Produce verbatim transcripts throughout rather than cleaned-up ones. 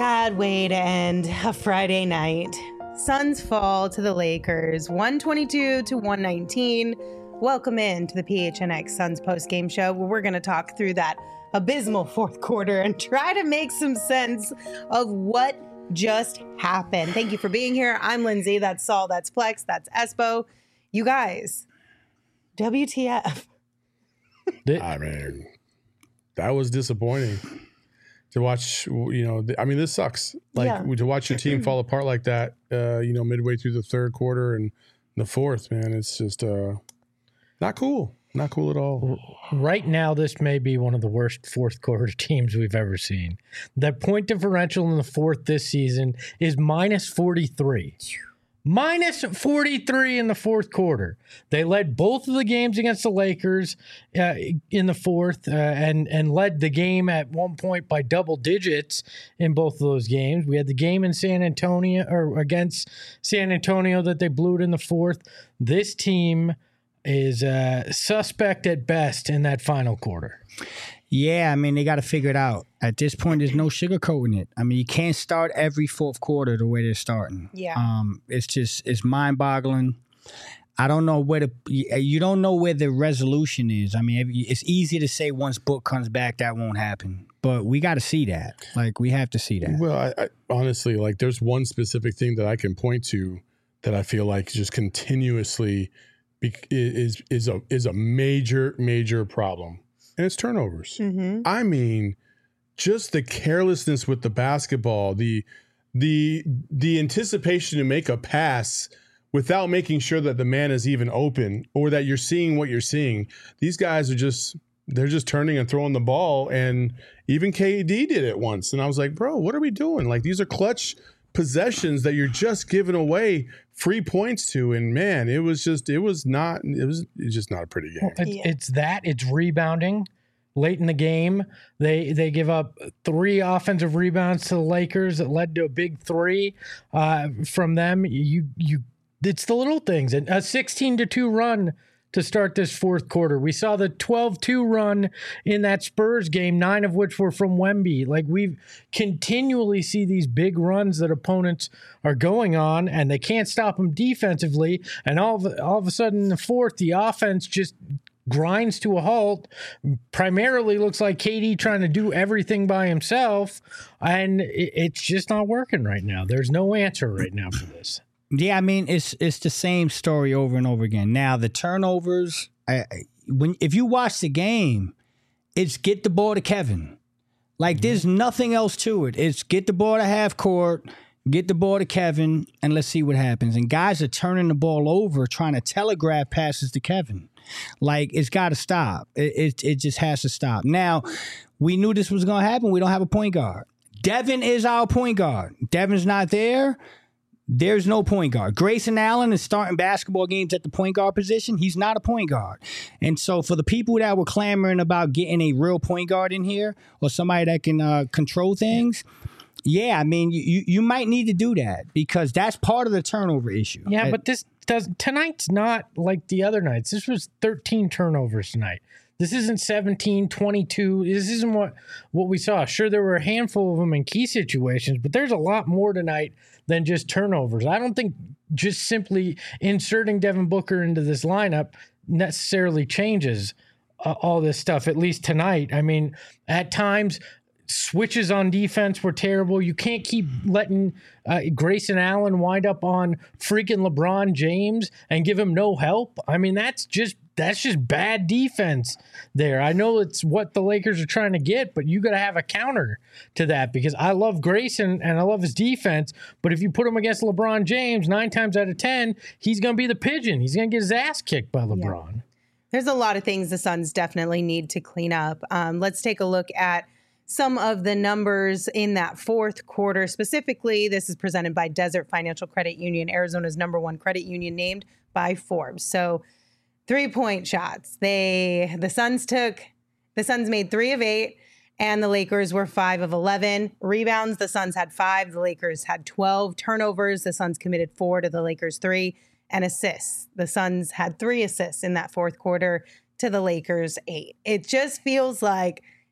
sad way to end a Friday night. Suns fall to the Lakers, one twenty-two to one nineteen. Welcome in to the P H N X Suns post-game show, where we're going to talk through that abysmal fourth quarter and try to make some sense of what just happened. Thank you for being here. I'm Lindsay. That's Saul. That's Flex. That's Espo. You guys, W T F? I mean, that was disappointing. To watch, you know, I mean, this sucks. Like, yeah. To watch your team fall apart like that, uh, you know, midway through the third quarter and the fourth, man, it's just uh, not cool. Not cool at all. Right now, this may be one of the worst fourth quarter teams we've ever seen. The point differential in the fourth this season is minus forty-three. Minus forty-three in the fourth quarter. They led both of the games against the Lakers uh, in the fourth uh, and, and led the game at one point by double digits in both of those games. We had the game in San Antonio or against San Antonio that they blew it in the fourth. This team is uh, suspect at best in that final quarter. Yeah, I mean, they got to figure it out. At this point, there's no sugarcoating it. I mean, you can't start every fourth quarter the way they're starting. Yeah. Um, it's just, it's mind-boggling. I don't know where the, you don't know where the resolution is. I mean, it's easy to say once Book comes back, that won't happen. But we got to see that. Like, we have to see that. Well, I, I, honestly, like, there's one specific thing that I can point to that I feel like just continuously be, is is a is a major, major problem. And it's turnovers. Mm-hmm. I mean, just the carelessness with the basketball, the the the anticipation to make a pass without making sure that the man is even open or that you're seeing what you're seeing. These guys are just they're just turning and throwing the ball, and even K D did it once. And I was like, bro, what are we doing? Like, these are clutch possessions that you're just giving away free points to, and man, it was just it was not it was, it was just not a pretty game. Well, it's, it's that it's rebounding late in the game. They they give up three offensive rebounds to the Lakers that led to a big three uh, from them. You you it's the little things. And a sixteen to two run to start this fourth quarter. We saw the twelve two run in that Spurs game, nine of which were from Wemby. Like, we continually see these big runs that opponents are going on, and they can't stop them defensively. And all of, all of a sudden in the fourth, the offense just grinds to a halt. Primarily looks like K D trying to do everything by himself, and it, it's just not working right now. There's no answer right now for this. Yeah, I mean, it's it's the same story over and over again. Now, the turnovers, I, when if you watch the game, it's get the ball to Kevin. Like, mm-hmm. There's nothing else to it. It's get the ball to half court, get the ball to Kevin, and let's see what happens. And guys are turning the ball over, trying to telegraph passes to Kevin. Like, it's got to stop. It, it it just has to stop. Now, we knew this was going to happen. We don't have a point guard. Devin is our point guard. Devin's not there. There's no point guard. Grayson Allen is starting basketball games at the point guard position. He's not a point guard. And so for the people that were clamoring about getting a real point guard in here or somebody that can uh, control things, yeah, I mean, you, you might need to do that because that's part of the turnover issue. Yeah, but this does tonight's not like the other nights. This was thirteen turnovers tonight. This isn't seventeen, twenty-two. This isn't what, what we saw. Sure, there were a handful of them in key situations, but there's a lot more tonight than just turnovers. I don't think just simply inserting Devin Booker into this lineup necessarily changes uh, all this stuff, at least tonight. I mean, at times, switches on defense were terrible. You can't keep letting uh, Grayson Allen wind up on freaking LeBron James and give him no help. I mean, that's just that's just bad defense there. I know it's what the Lakers are trying to get, but you got to have a counter to that because I love Grayson and I love his defense, but if you put him against LeBron James, nine times out of ten, he's going to be the pigeon. He's going to get his ass kicked by LeBron. Yeah. There's a lot of things the Suns definitely need to clean up. Um, let's take a look at some of the numbers in that fourth quarter. Specifically, this is presented by Desert Financial Credit Union, Arizona's number one credit union, named by Forbes. So three-point shots. They the Suns took, the Suns made three of eight, and the Lakers were five of eleven. Rebounds, the Suns had five, the Lakers had twelve. Turnovers, the Suns committed four to the Lakers three. And assists, the Suns had three assists in that fourth quarter to the Lakers eight. It just feels like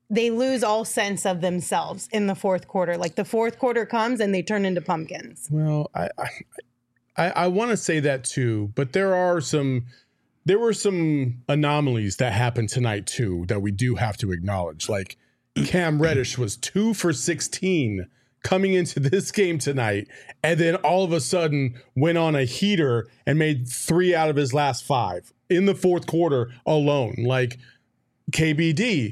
they lose all sense of themselves in the fourth quarter. Like the fourth quarter comes and they turn into pumpkins. Well, I I, I, I want to say that too, but there are some there were some anomalies that happened tonight too that we do have to acknowledge. Like Cam Reddish was two for sixteen coming into this game tonight, and then all of a sudden went on a heater and made three out of his last five in the fourth quarter alone. Like K B D,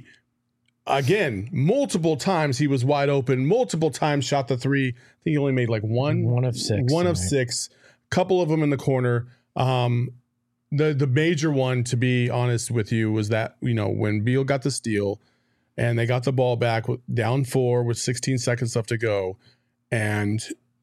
again, multiple times he was wide open, multiple times shot the three. I think he only made like one. One of six. One of tonight. six. Couple of them in the corner. Um, the the major one, to be honest with you, was that, you know, when Beal got the steal and they got the ball back with, down four with sixteen seconds left to go, and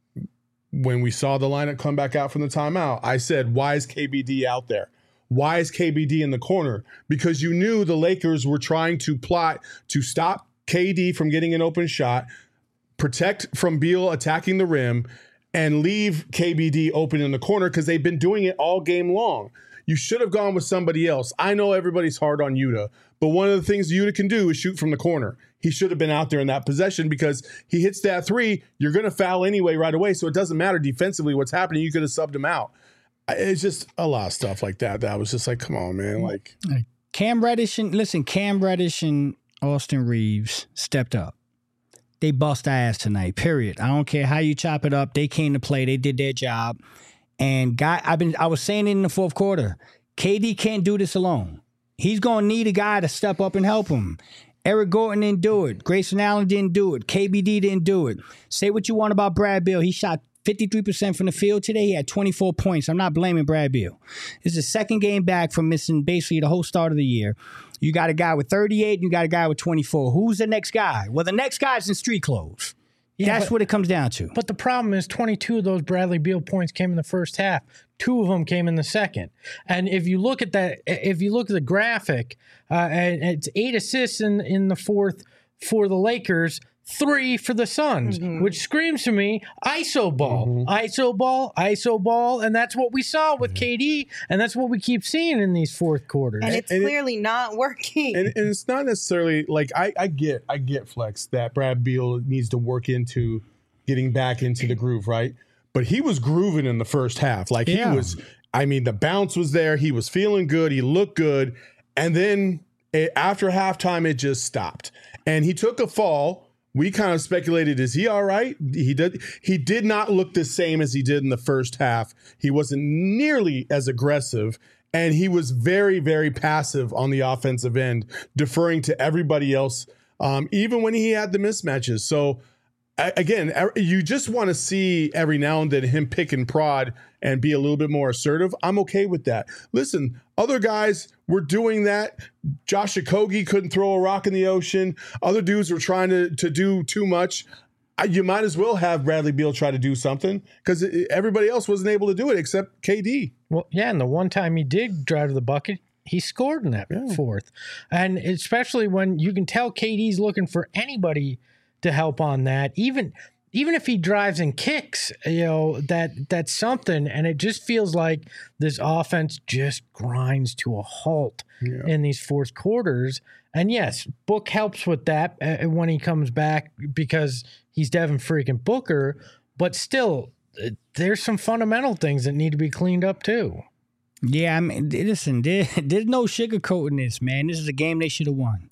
when we saw the lineup come back out from the timeout, I said, why is K B D out there? Why is K B D in the corner? Because you knew the Lakers were trying to plot to stop K D from getting an open shot, protect from Beal attacking the rim, and leave K B D open in the corner because they've been doing it all game long. You should have gone with somebody else. I know everybody's hard on Yuta, but one of the things Yuta can do is shoot from the corner. He should have been out there in that possession because he hits that three, you're going to foul anyway right away, so it doesn't matter defensively what's happening. You could have subbed him out. It's just a lot of stuff like that. That was just like, come on, man. Like Cam Reddish and listen, Cam Reddish and Austin Reeves stepped up. They bust our ass tonight. Period. I don't care how you chop it up. They came to play. They did their job. And guy, I've been. I was saying it in the fourth quarter. K D can't do this alone. He's gonna need a guy to step up and help him. Eric Gordon didn't do it. Grayson Allen didn't do it. K B D didn't do it. Say what you want about Brad Beal. He shot fifty-three percent from the field today. He had twenty-four points. I'm not blaming Brad Beal. This is the second game back from missing basically the whole start of the year. You got a guy with thirty-eight and you got a guy with twenty-four. Who's the next guy? Well, the next guy's in street clothes. Yeah, That's but, what it comes down to. But the problem is twenty-two of those Bradley Beal points came in the first half. Two of them came in the second. And if you look at that, if you look at the graphic, uh, and it's eight assists in, in the fourth for the Lakers, three for the Suns, mm-hmm. which screams to me, I S O ball, mm-hmm. I S O ball, I S O ball. And that's what we saw with mm-hmm. K D. And that's what we keep seeing in these fourth quarters. And it's and clearly it, not working. And, and it's not necessarily like I, I get, I get Flex that Brad Beal needs to work into getting back into the groove, right? But he was grooving in the first half. Like yeah. he was, I mean, the bounce was there. He was feeling good. He looked good. And then it, after halftime, it just stopped. And he took a fall. We kind of speculated, is he all right? He did he did not look the same as he did in the first half. He wasn't nearly as aggressive, and he was very, very passive on the offensive end, deferring to everybody else, um, even when he had the mismatches. So, again, you just want to see every now and then him pick and prod and be a little bit more assertive. I'm okay with that. Listen, other guys were doing that. Josh Okogie couldn't throw a rock in the ocean. Other dudes were trying to, to do too much. You might as well have Bradley Beal try to do something because everybody else wasn't able to do it except K D. Well, yeah, and the one time he did drive to the bucket, he scored in that yeah. fourth. And especially when you can tell K D's looking for anybody to help on that. Even even if he drives and kicks, you know, that that's something. And it just feels like this offense just grinds to a halt yeah. in these fourth quarters. And yes, Book helps with that uh, when he comes back because he's Devin freaking Booker. But still, uh, there's some fundamental things that need to be cleaned up too. Yeah, I mean, listen, there, there's no sugarcoating this, man. This is a game they should have won.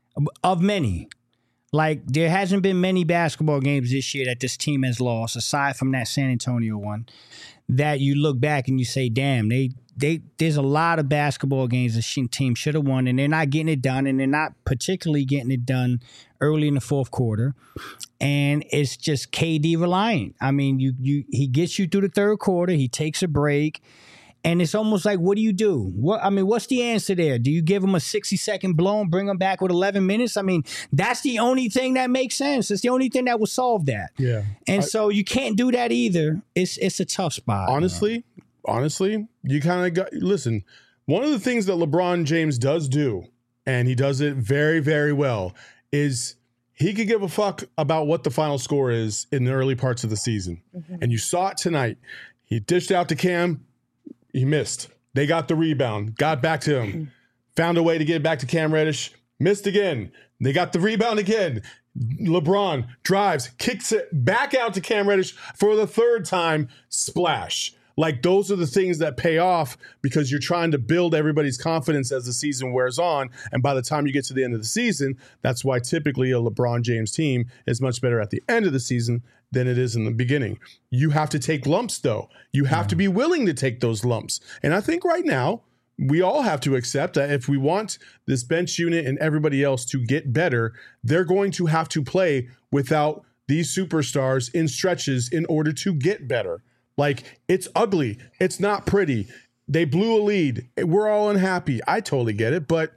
Of many. Like, there hasn't been many basketball games this year that this team has lost, aside from that San Antonio one, that you look back and you say, damn, they they there's a lot of basketball games the team should have won, and they're not getting it done, and they're not particularly getting it done early in the fourth quarter. And it's just K D reliant. I mean, you you he gets you through the third quarter, he takes a break, and it's almost like, what do you do? What I mean, what's the answer there? Do you give him a sixty-second blow and bring him back with eleven minutes? I mean, that's the only thing that makes sense. It's the only thing that will solve that. Yeah. And I, so you can't do that either. It's it's a tough spot. Honestly, man. honestly, you kind of got – listen, one of the things that LeBron James does do, and he does it very, very well, is he could give a fuck about what the final score is in the early parts of the season. Mm-hmm. And you saw it tonight. He dished out to Cam. He missed. They got the rebound, got back to him, found a way to get back to Cam Reddish, missed again. They got the rebound again. LeBron drives, kicks it back out to Cam Reddish for the third time. Splash. Like, those are the things that pay off because you're trying to build everybody's confidence as the season wears on. And by the time you get to the end of the season, that's why typically a LeBron James team is much better at the end of the season than it is in the beginning. You have to take lumps, though. You have to be willing to take those lumps. And I think right now, we all have to accept that if we want this bench unit and everybody else to get better, they're going to have to play without these superstars in stretches in order to get better. Like, it's ugly. It's not pretty. They blew a lead. We're all unhappy. I totally get it, but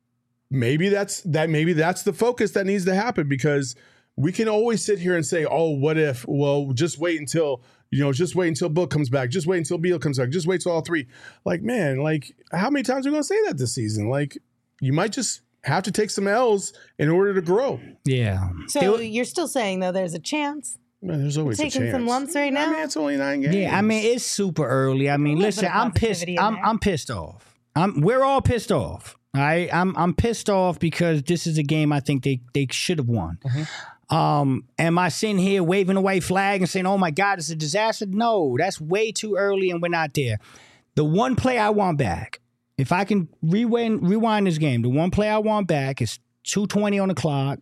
maybe that's that. Maybe that's the focus that needs to happen, because we can always sit here and say, "Oh, what if?" Well, just wait until you know. Just wait until Book comes back. Just wait until Beal comes back. Just wait till all three. Like, man, like, how many times are we gonna say that this season? Like, you might just have to take some L's in order to grow. Yeah. So you're still saying, though, there's a chance? Man, there's always taking a chance. some lumps right now. I mean, it's only nine games. Yeah, I mean, it's super early. I mean, listen, I'm pissed. I'm I'm pissed off. I'm we're all pissed off. All right, I'm I'm pissed off because this is a game I think they they should have won. Mm-hmm. Um, am I sitting here waving a white flag and saying, "Oh my God, it's a disaster"? No, that's way too early, and we're not there. The one play I want back, if I can rewind rewind this game, the one play I want back is two twenty on the clock.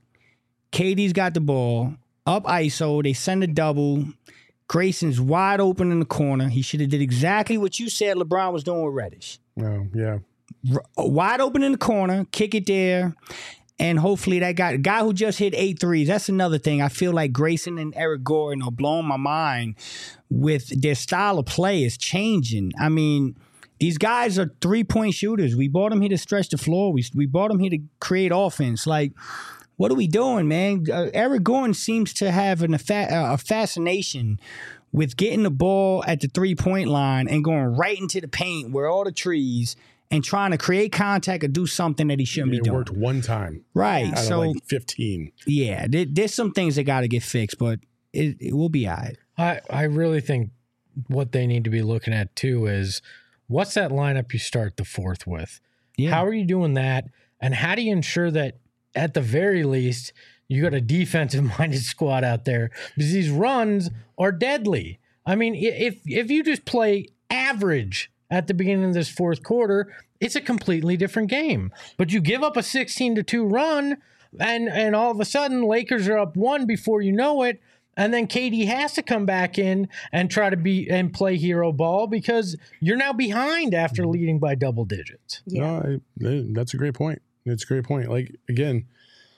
K D's got the ball. Up I S O, they send a double. Grayson's wide open in the corner. He should have did exactly what you said LeBron was doing with Reddish. Oh, yeah. R- wide open in the corner, kick it there, and hopefully that guy, guy who just hit eight threes, that's another thing. I feel like Grayson and Eric Gordon are blowing my mind with their style of play is changing. I mean, these guys are three-point shooters. We brought them here to stretch the floor. We, we brought them here to create offense. Like, what are we doing, man? Uh, Eric Gordon seems to have an, a, fa- uh, a fascination with getting the ball at the three-point line and going right into the paint where all the trees and trying to create contact or do something that he shouldn't it be doing. It worked one time. Right. Out so, of like fifteen. Yeah, there, there's some things that got to get fixed, but it, it will be all right. I, I really think what they need to be looking at, too, is what's that lineup you start the fourth with? Yeah. How are you doing that? And how do you ensure that at the very least, you got a defensive-minded squad out there, because these runs are deadly. I mean, if if you just play average at the beginning of this fourth quarter, it's a completely different game. But you give up a sixteen to two run, and and all of a sudden, Lakers are up one before you know it, and then K D has to come back in and try to be and play hero ball because you're now behind after leading by double digits. Yeah. No, I, that's a great point. It's a great point. Like, again,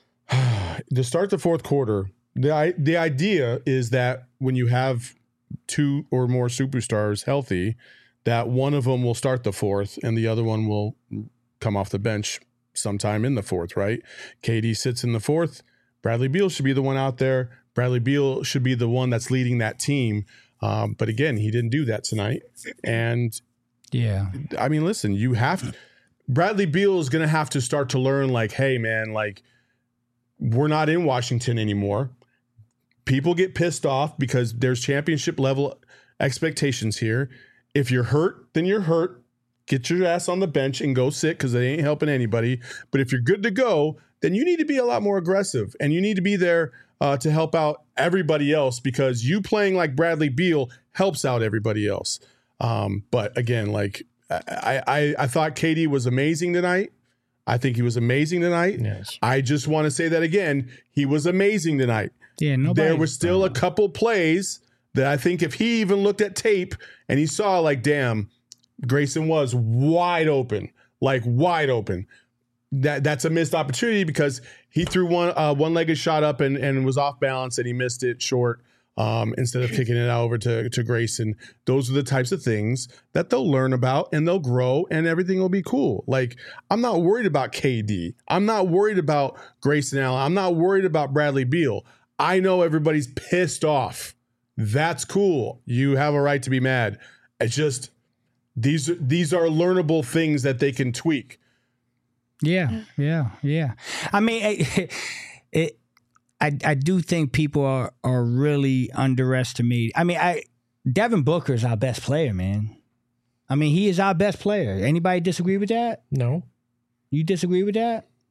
to start the fourth quarter, the the idea is that when you have two or more superstars healthy, that one of them will start the fourth and the other one will come off the bench sometime in the fourth, right? K D sits in the fourth. Bradley Beal should be the one out there. Bradley Beal should be the one that's leading that team. Um, but again, he didn't do that tonight. And yeah, I mean, listen, you have to. Bradley Beal is going to have to start to learn, like, hey, man, like, we're not in Washington anymore. People get pissed off because there's championship level expectations here. If you're hurt, then you're hurt. Get your ass on the bench and go sit because they ain't helping anybody. But if you're good to go, then you need to be a lot more aggressive and you need to be there uh, to help out everybody else, because you playing like Bradley Beal helps out everybody else. Um, but again, like, I, I, I thought K D was amazing tonight. I think he was amazing tonight. Yes. I just want to say that again. He was amazing tonight. Yeah, nobody, there was still a couple plays that I think if he even looked at tape and he saw, like, damn, Grayson was wide open, like wide open. That that's a missed opportunity because he threw one uh, one-legged shot up and, and was off balance and he missed it short. Um, instead of kicking it out over to, to Grayson. Those are the types of things that they'll learn about and they'll grow and everything will be cool. Like, I'm not worried about K D. I'm not worried about Grayson Allen. I'm not worried about Bradley Beal. I know everybody's pissed off. That's cool. You have a right to be mad. It's just these, these are learnable things that they can tweak. Yeah, yeah, yeah. I mean, it, it I, I do think people are, are really underestimated. I mean, I Devin Booker is our best player, man. I mean, he is our best player. Anybody disagree with that? No. You disagree with that?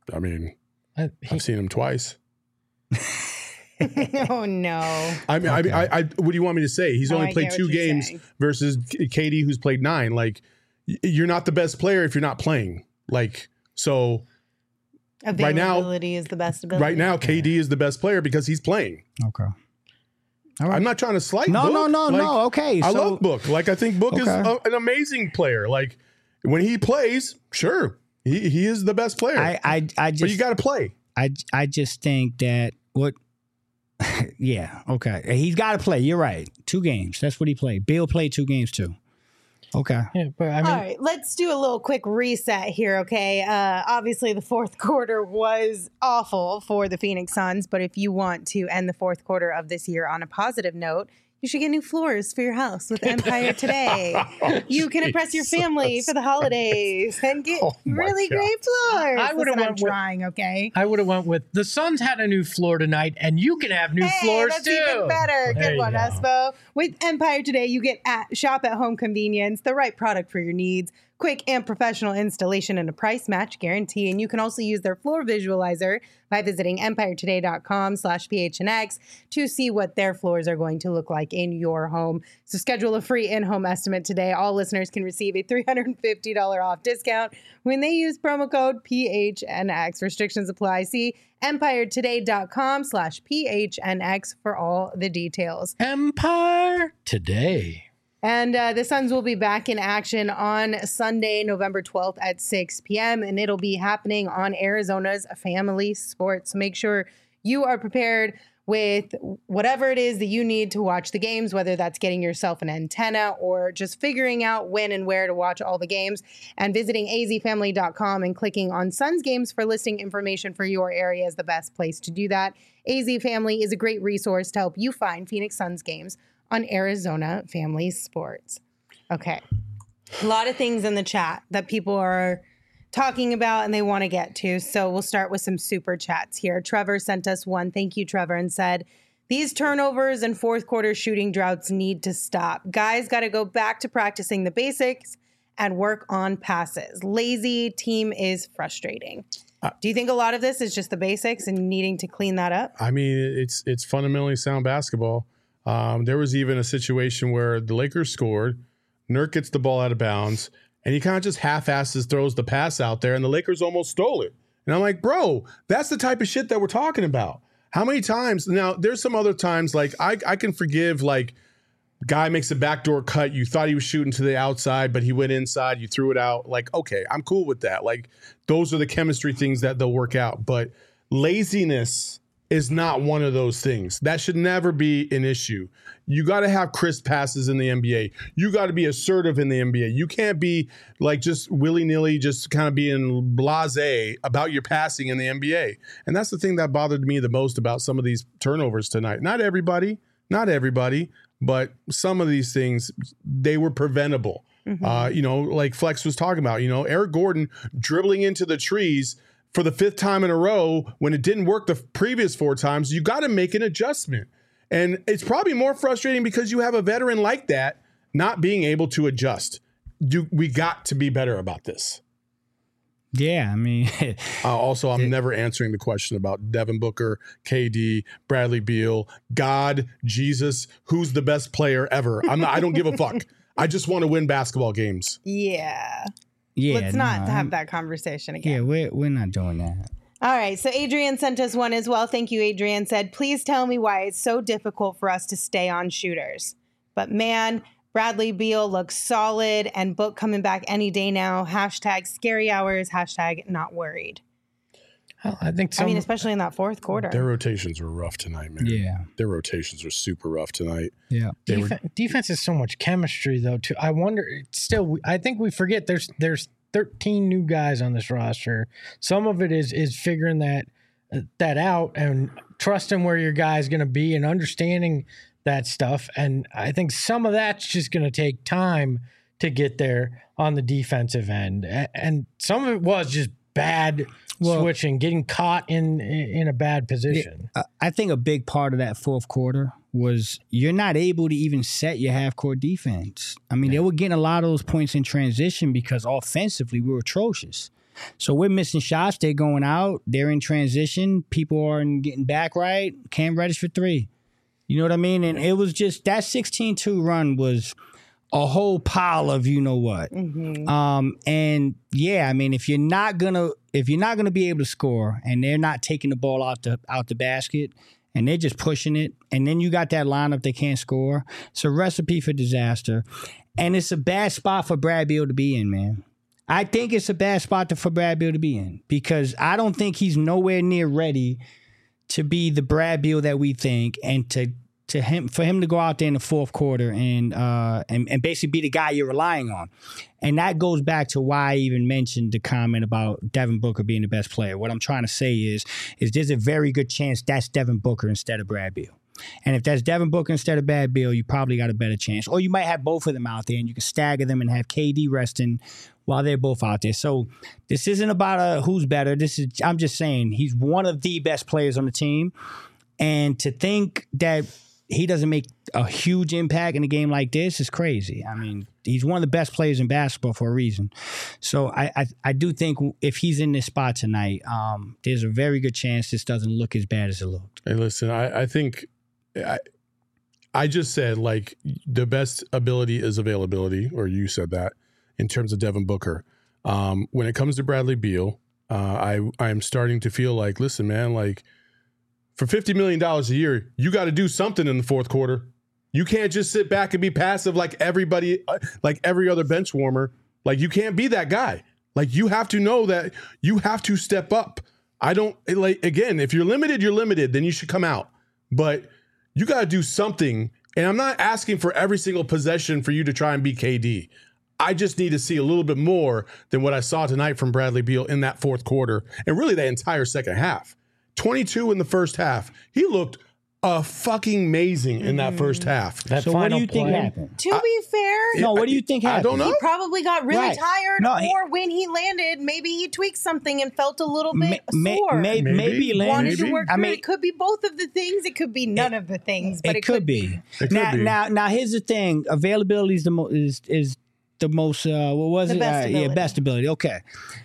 I mean, Uh, he- I've seen him twice. Oh no. I mean, I, mean I, I, what do you want me to say? He's Oh, only I played get what two you're games saying. versus K D, who's played nine. Like, y- you're not the best player if you're not playing. Like, so Right now- Availability is the best ability. right now, K D is the best player because he's playing. Okay. All right. I'm not trying to slight No, Book. no, no, Like, no. Okay. I so, love Book. Like, I think Book is Okay. a, an amazing player. Like, when he plays, sure, he, he is the best player. I, I, I just, but you got to play. I, I just think that what, yeah, okay. He's got to play. You're right. Two games. That's what he played. Bill played two games too. Okay. yeah, but I mean, All right, let's do a little quick reset here, okay? Uh, obviously, the fourth quarter was awful for the Phoenix Suns, but if you want to end the fourth quarter of this year on a positive note, you should get new floors for your house with Empire Today. You can impress your family for the holidays and get Oh my really God. great floors. I would've Listen, I'm went with- trying, okay? I would have went with the Suns had a new floor tonight, and you can have new Hey, floors that's too. even better. There Good you one, go. Espo. With Empire Today, you get at shop at home convenience, the right product for your needs, quick and professional installation, and a price match guarantee. And you can also use their floor visualizer by visiting empiretoday.com slash phnx to see what their floors are going to look like in your home. So schedule a free in-home estimate today. All listeners can receive a three hundred fifty dollars off discount when they use promo code P H N X. Restrictions apply. See empiretoday.com slash phnx for all the details. Empire Today. And uh, the Suns will be back in action on Sunday, November twelfth at six p.m. And it'll be happening on Arizona's Family Sports. So make sure you are prepared with whatever it is that you need to watch the games, whether that's getting yourself an antenna or just figuring out when and where to watch all the games, and visiting a z family dot com and clicking on Suns games for listing information for your area is the best place to do that. A Z Family is a great resource to help you find Phoenix Suns games on Arizona Family Sports. Okay. A lot of things in the chat that people are talking about and they want to get to. So we'll start with some super chats here. Trevor sent us one. Thank you, Trevor, and said, these turnovers and fourth quarter shooting droughts need to stop. Guys got to go back to practicing the basics and work on passes. Lazy team is frustrating. Uh, Do you think a lot of this is just the basics and needing to clean that up? I mean, it's it's fundamentally sound basketball. Um, there was even a situation where the Lakers scored, Nurk gets the ball out of bounds, and he kind of just half-asses throws the pass out there, and the Lakers almost stole it. And I'm like, bro, that's the type of shit that we're talking about. How many times? Now, there's some other times, like, I, I can forgive, like, guy makes a backdoor cut. You thought he was shooting to the outside, but he went inside. You threw it out. Like, okay, I'm cool with that. Like, those are the chemistry things that they'll work out. But laziness is not one of those things. That should never be an issue. You got to have crisp passes in the N B A. You got to be assertive in the N B A. You can't be like just willy-nilly, just kind of being blasé about your passing in the N B A. And that's the thing that bothered me the most about some of these turnovers tonight. Not everybody, not everybody, but some of these things, they were preventable. Mm-hmm. Uh, you know, like Flex was talking about, you know, Eric Gordon dribbling into the trees for the fifth time in a row when it didn't work the previous four times. You got to make an adjustment. And it's probably more frustrating because you have a veteran like that not being able to adjust. You, we got to be better about this. Yeah, I mean, uh, also, I'm it, never answering the question about Devin Booker, K D, Bradley Beal, God, Jesus, who's the best player ever. I'm not, I don't give a fuck. I just want to win basketball games. Yeah. Yeah. Let's not no, have I'm, that conversation again. Yeah, we're, we're not doing that. All right. So Adrian sent us one as well. Thank you, Adrian. Said, please tell me why it's so difficult for us to stay on shooters. But man, Bradley Beal looks solid, and Book coming back any day now. Hashtag scary hours. Hashtag not worried. Well, I think some, I mean, especially in that fourth quarter. Their rotations were rough tonight, man. Yeah. Their rotations were super rough tonight. Yeah. Def- were, defense is so much chemistry, though, too. I wonder, still, I think we forget there's there's thirteen new guys on this roster. Some of it is is figuring that that out and trusting where your guy's going to be and understanding that stuff. And I think some of that's just going to take time to get there on the defensive end. And some of it was just bad well, switching, getting caught in in a bad position. It, I think a big part of that fourth quarter was you're not able to even set your half-court defense. I mean, yeah. they were getting a lot of those points in transition because offensively we were atrocious. So we're missing shots. They're going out. They're in transition. People aren't getting back right. Cam Reddish for three. You know what I mean? And it was just that sixteen two run was a whole pile of you know what. Mm-hmm. Um, and yeah, I mean, if you're not gonna if you're not gonna be able to score, and they're not taking the ball out the out the basket, and they're just pushing it, and then you got that lineup that can't score, it's a recipe for disaster, and it's a bad spot for Brad Beal to be in, man. I think it's a bad spot to, for Brad Beal to be in because I don't think he's nowhere near ready to be the Brad Beal that we think, and to to him for him to go out there in the fourth quarter and uh and, and basically be the guy you're relying on. And that goes back to why I even mentioned the comment about Devin Booker being the best player. What I'm trying to say is, is there's a very good chance that's Devin Booker instead of Brad Beal. And if that's Devin Booker instead of Brad Beal, you probably got a better chance. Or you might have both of them out there and you can stagger them and have K D resting while they're both out there. So this isn't about uh, who's better. This is I'm just saying he's one of the best players on the team. And to think that he doesn't make a huge impact in a game like this is crazy. I mean, he's one of the best players in basketball for a reason. So I I, I do think if he's in this spot tonight, um, there's a very good chance this doesn't look as bad as it looked. Hey, listen, I, I think I, I just said, like, the best ability is availability, or you said that, in terms of Devin Booker. Um, when it comes to Bradley Beal, uh, I I'm starting to feel like, listen, man, like, for fifty million dollars a year, you got to do something in the fourth quarter. You can't just sit back and be passive like everybody, like every other bench warmer. Like, you can't be that guy. Like, you have to know that you have to step up. I don't, like, again, if you're limited, you're limited, then you should come out. But you got to do something. And I'm not asking for every single possession for you to try and be K D. I just need to see a little bit more than what I saw tonight from Bradley Beal in that fourth quarter, and really that entire second half. twenty-two in the first half. He looked uh, fucking amazing in that first half. That So what final do you think play, happened? To be fair, No, what do you think I happened? don't know. he probably got really Right. tired, No, he- or when he landed, maybe he tweaked something and felt a little Ma- bit ma- sore. may- Maybe. maybe, Lynn. Wanted Maybe. to work I through mean, it. It could be both of the things. It could be none of the things, but it, it, could be. It could now, be. now, now, here's the thing: availability is the most is is the most. Uh, what was The it? best Uh, yeah, ability. best ability. Okay.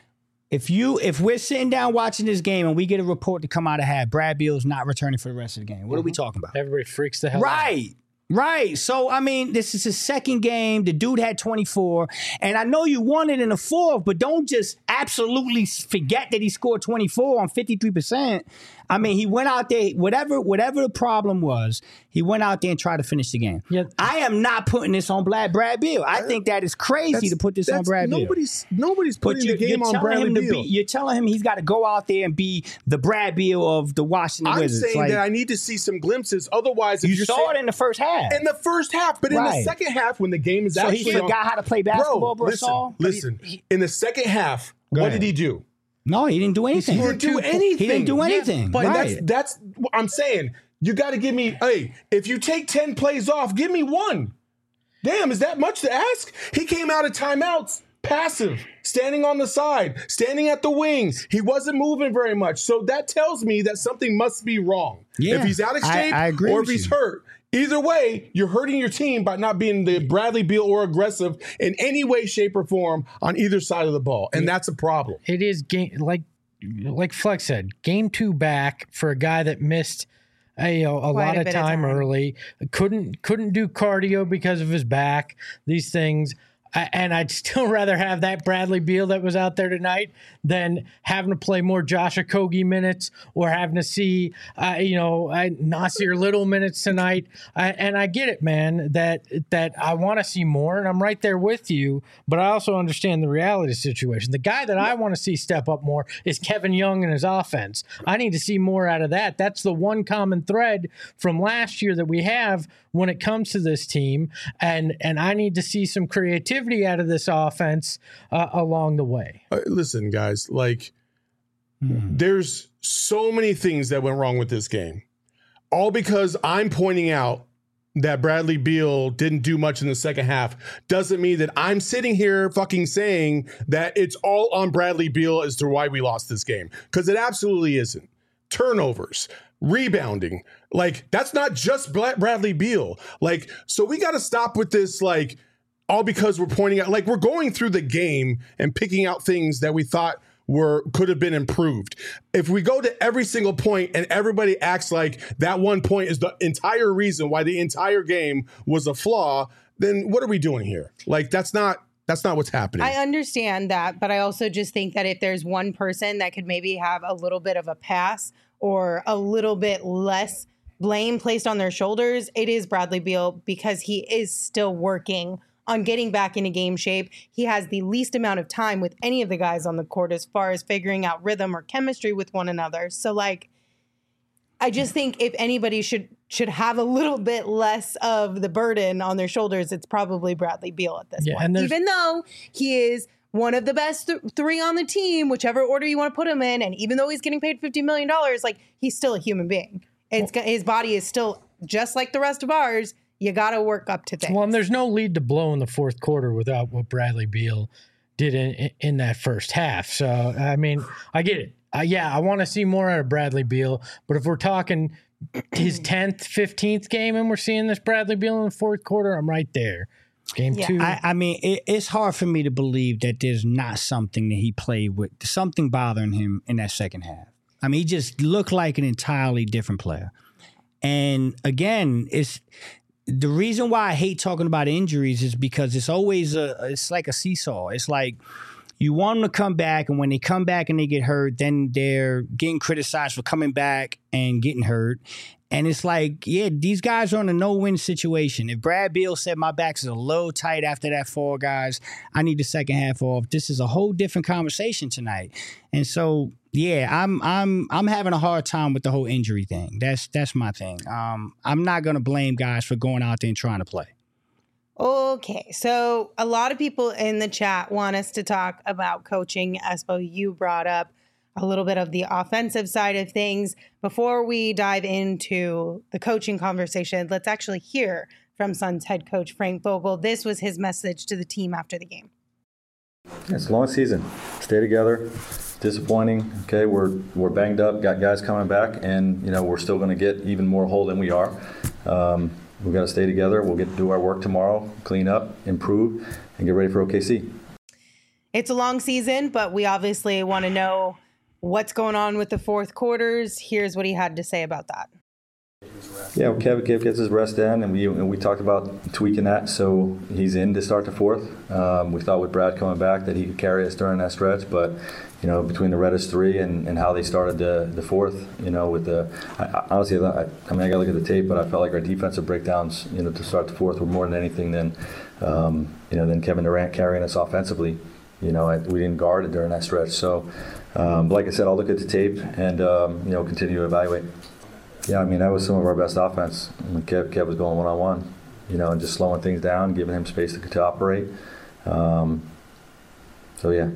If you if we're sitting down watching this game and we get a report to come out of half, Brad Beal's not returning for the rest of the game. What are we talking about? everybody freaks the hell out. Right. Right. So, I mean, this is his second game. The dude had twenty-four. And I know you won it in the fourth, but don't just absolutely forget that he scored twenty-four on fifty-three percent. I mean, he went out there, whatever whatever the problem was, he went out there and tried to finish the game. Yeah. I am not putting this on Brad, Brad Beal. I think that is crazy to put this on That's- Brad Beal. nobody's, Nobody's But putting you're, the game you're on telling Bradley him to Beal. be, you're telling him he's got to go out there and be the Brad Beal of the Washington I'm Wizards. saying Like, that I need to see some glimpses. Otherwise, if you you're saw saying, it in the first half. in the first half, but in the Right. second half, when the game is So actually he on- forgot how to play basketball, Bro, listen, Brasol? listen. In the second half, Go what ahead. did he do? No, he didn't do anything. He didn't do anything. He didn't do Yeah, anything. But right. that's that's what I'm saying. You got to give me. Hey, if you take ten plays off, give me one. Damn, is that much to ask? He came out of timeouts passive, standing on the side, standing at the wings. He wasn't moving very much. So that tells me that something must be wrong. Yeah, if he's out of I- shape I agree or if with he's you. hurt. Either way, you're hurting your team by not being the Bradley Beal or aggressive in any way, shape, or form on either side of the ball. And that's a problem. It is game like like Flex said, game two back for a guy that missed a, you know, a Quite lot a of bit of time, time. early. Couldn't couldn't do cardio because of his back. These things. I, and I'd still rather have that Bradley Beal that was out there tonight than having to play more Josh Okogie minutes or having to see, uh, you know, uh, Nasir Little minutes tonight. I, and I get it, man, that that I want to see more, and I'm right there with you. But I also understand the reality situation. The guy that I want to see step up more is Kevin Young and his offense. I need to see more out of that. That's the one common thread from last year that we have when it comes to this team, and and I need to see some creativity out of this offense uh, along the way. Uh, listen, guys, like there's so many things that went wrong with this game, all because I'm pointing out that Bradley Beal didn't do much in the second half doesn't mean that I'm sitting here fucking saying that it's all on Bradley Beal as to why we lost this game, because it absolutely isn't. Turnovers, rebounding, like that's not just Bla- Bradley Beal. Like, so we got to stop with this, like, all because we're pointing out, like, we're going through the game and picking out things that we thought were could have been improved. If we go to every single point and everybody acts like that one point is the entire reason why the entire game was a flaw, then what are we doing here? Like, that's not that's not what's happening. I understand that, but I also just think that if there's one person that could maybe have a little bit of a pass or a little bit less blame placed on their shoulders, it is Bradley Beal, because he is still working on getting back into game shape. He has the least amount of time with any of the guys on the court as far as figuring out rhythm or chemistry with one another. So, like, I just think if anybody should should have a little bit less of the burden on their shoulders, it's probably Bradley Beal at this Yeah, point. and there's- Even though he is one of the best th- three on the team, whichever order you want to put him in, and even though he's getting paid fifty million dollars, like, he's still a human being. It's his body is still just like the rest of ours. You got to work up to things. Well, and there's no lead to blow in the fourth quarter without what Bradley Beal did in, in that first half. So, I mean, I get it. Uh, yeah, I want to see more out of Bradley Beal. But if we're talking his tenth, fifteenth game and we're seeing this Bradley Beal in the fourth quarter, I'm right there. Game Yeah. two. I, I mean, it, it's hard for me to believe that there's not something that he played with, something bothering him in that second half. I mean, he just looked like an entirely different player. And again, it's the reason why I hate talking about injuries is because it's always a, it's like a seesaw. It's like you want them to come back, and when they come back and they get hurt, then they're getting criticized for coming back and getting hurt. And it's like, yeah, these guys are in a no-win situation. If Brad Beal said my back is a little tight after that fall, guys, I need the second half off, this is a whole different conversation tonight. And so, yeah, I'm I'm I'm having a hard time with the whole injury thing. That's that's my thing. Um, I'm not gonna blame guys for going out there and trying to play. Okay, so a lot of people in the chat want us to talk about coaching. Espo, you brought up a little bit of the offensive side of things. Before we dive into the coaching conversation, let's actually hear from Suns head coach Frank Vogel. This was his message to the team after the game. It's a long season. Stay together. Disappointing. Okay, we're we're banged up. Got guys coming back, and you know we're still going to get even more whole than we are. Um, we've got to stay together. We'll get to do our work tomorrow, clean up, improve, and get ready for O K C. It's a long season, but we obviously want to know what's going on with the fourth quarters. Here's what he had to say about that. Yeah, well, Kev, Kev gets his rest in, and we and we talked about tweaking that, so he's in to start the fourth. Um, we thought with Brad coming back that he could carry us during that stretch, but you know, between the Reddish three and, and how they started the the fourth, you know, with the I, I, honestly, I, I mean, I got to look at the tape, but I felt like our defensive breakdowns, you know, to start the fourth were more than anything than, um, you know, than Kevin Durant carrying us offensively. You know, I, we didn't guard it during that stretch. So, um, like I said, I'll look at the tape and um, you know, continue to evaluate. Yeah, I mean, that was some of our best offense. I mean, Kev, Kev was going one-on-one, you know, and just slowing things down, giving him space to, to operate. Um, so, yeah.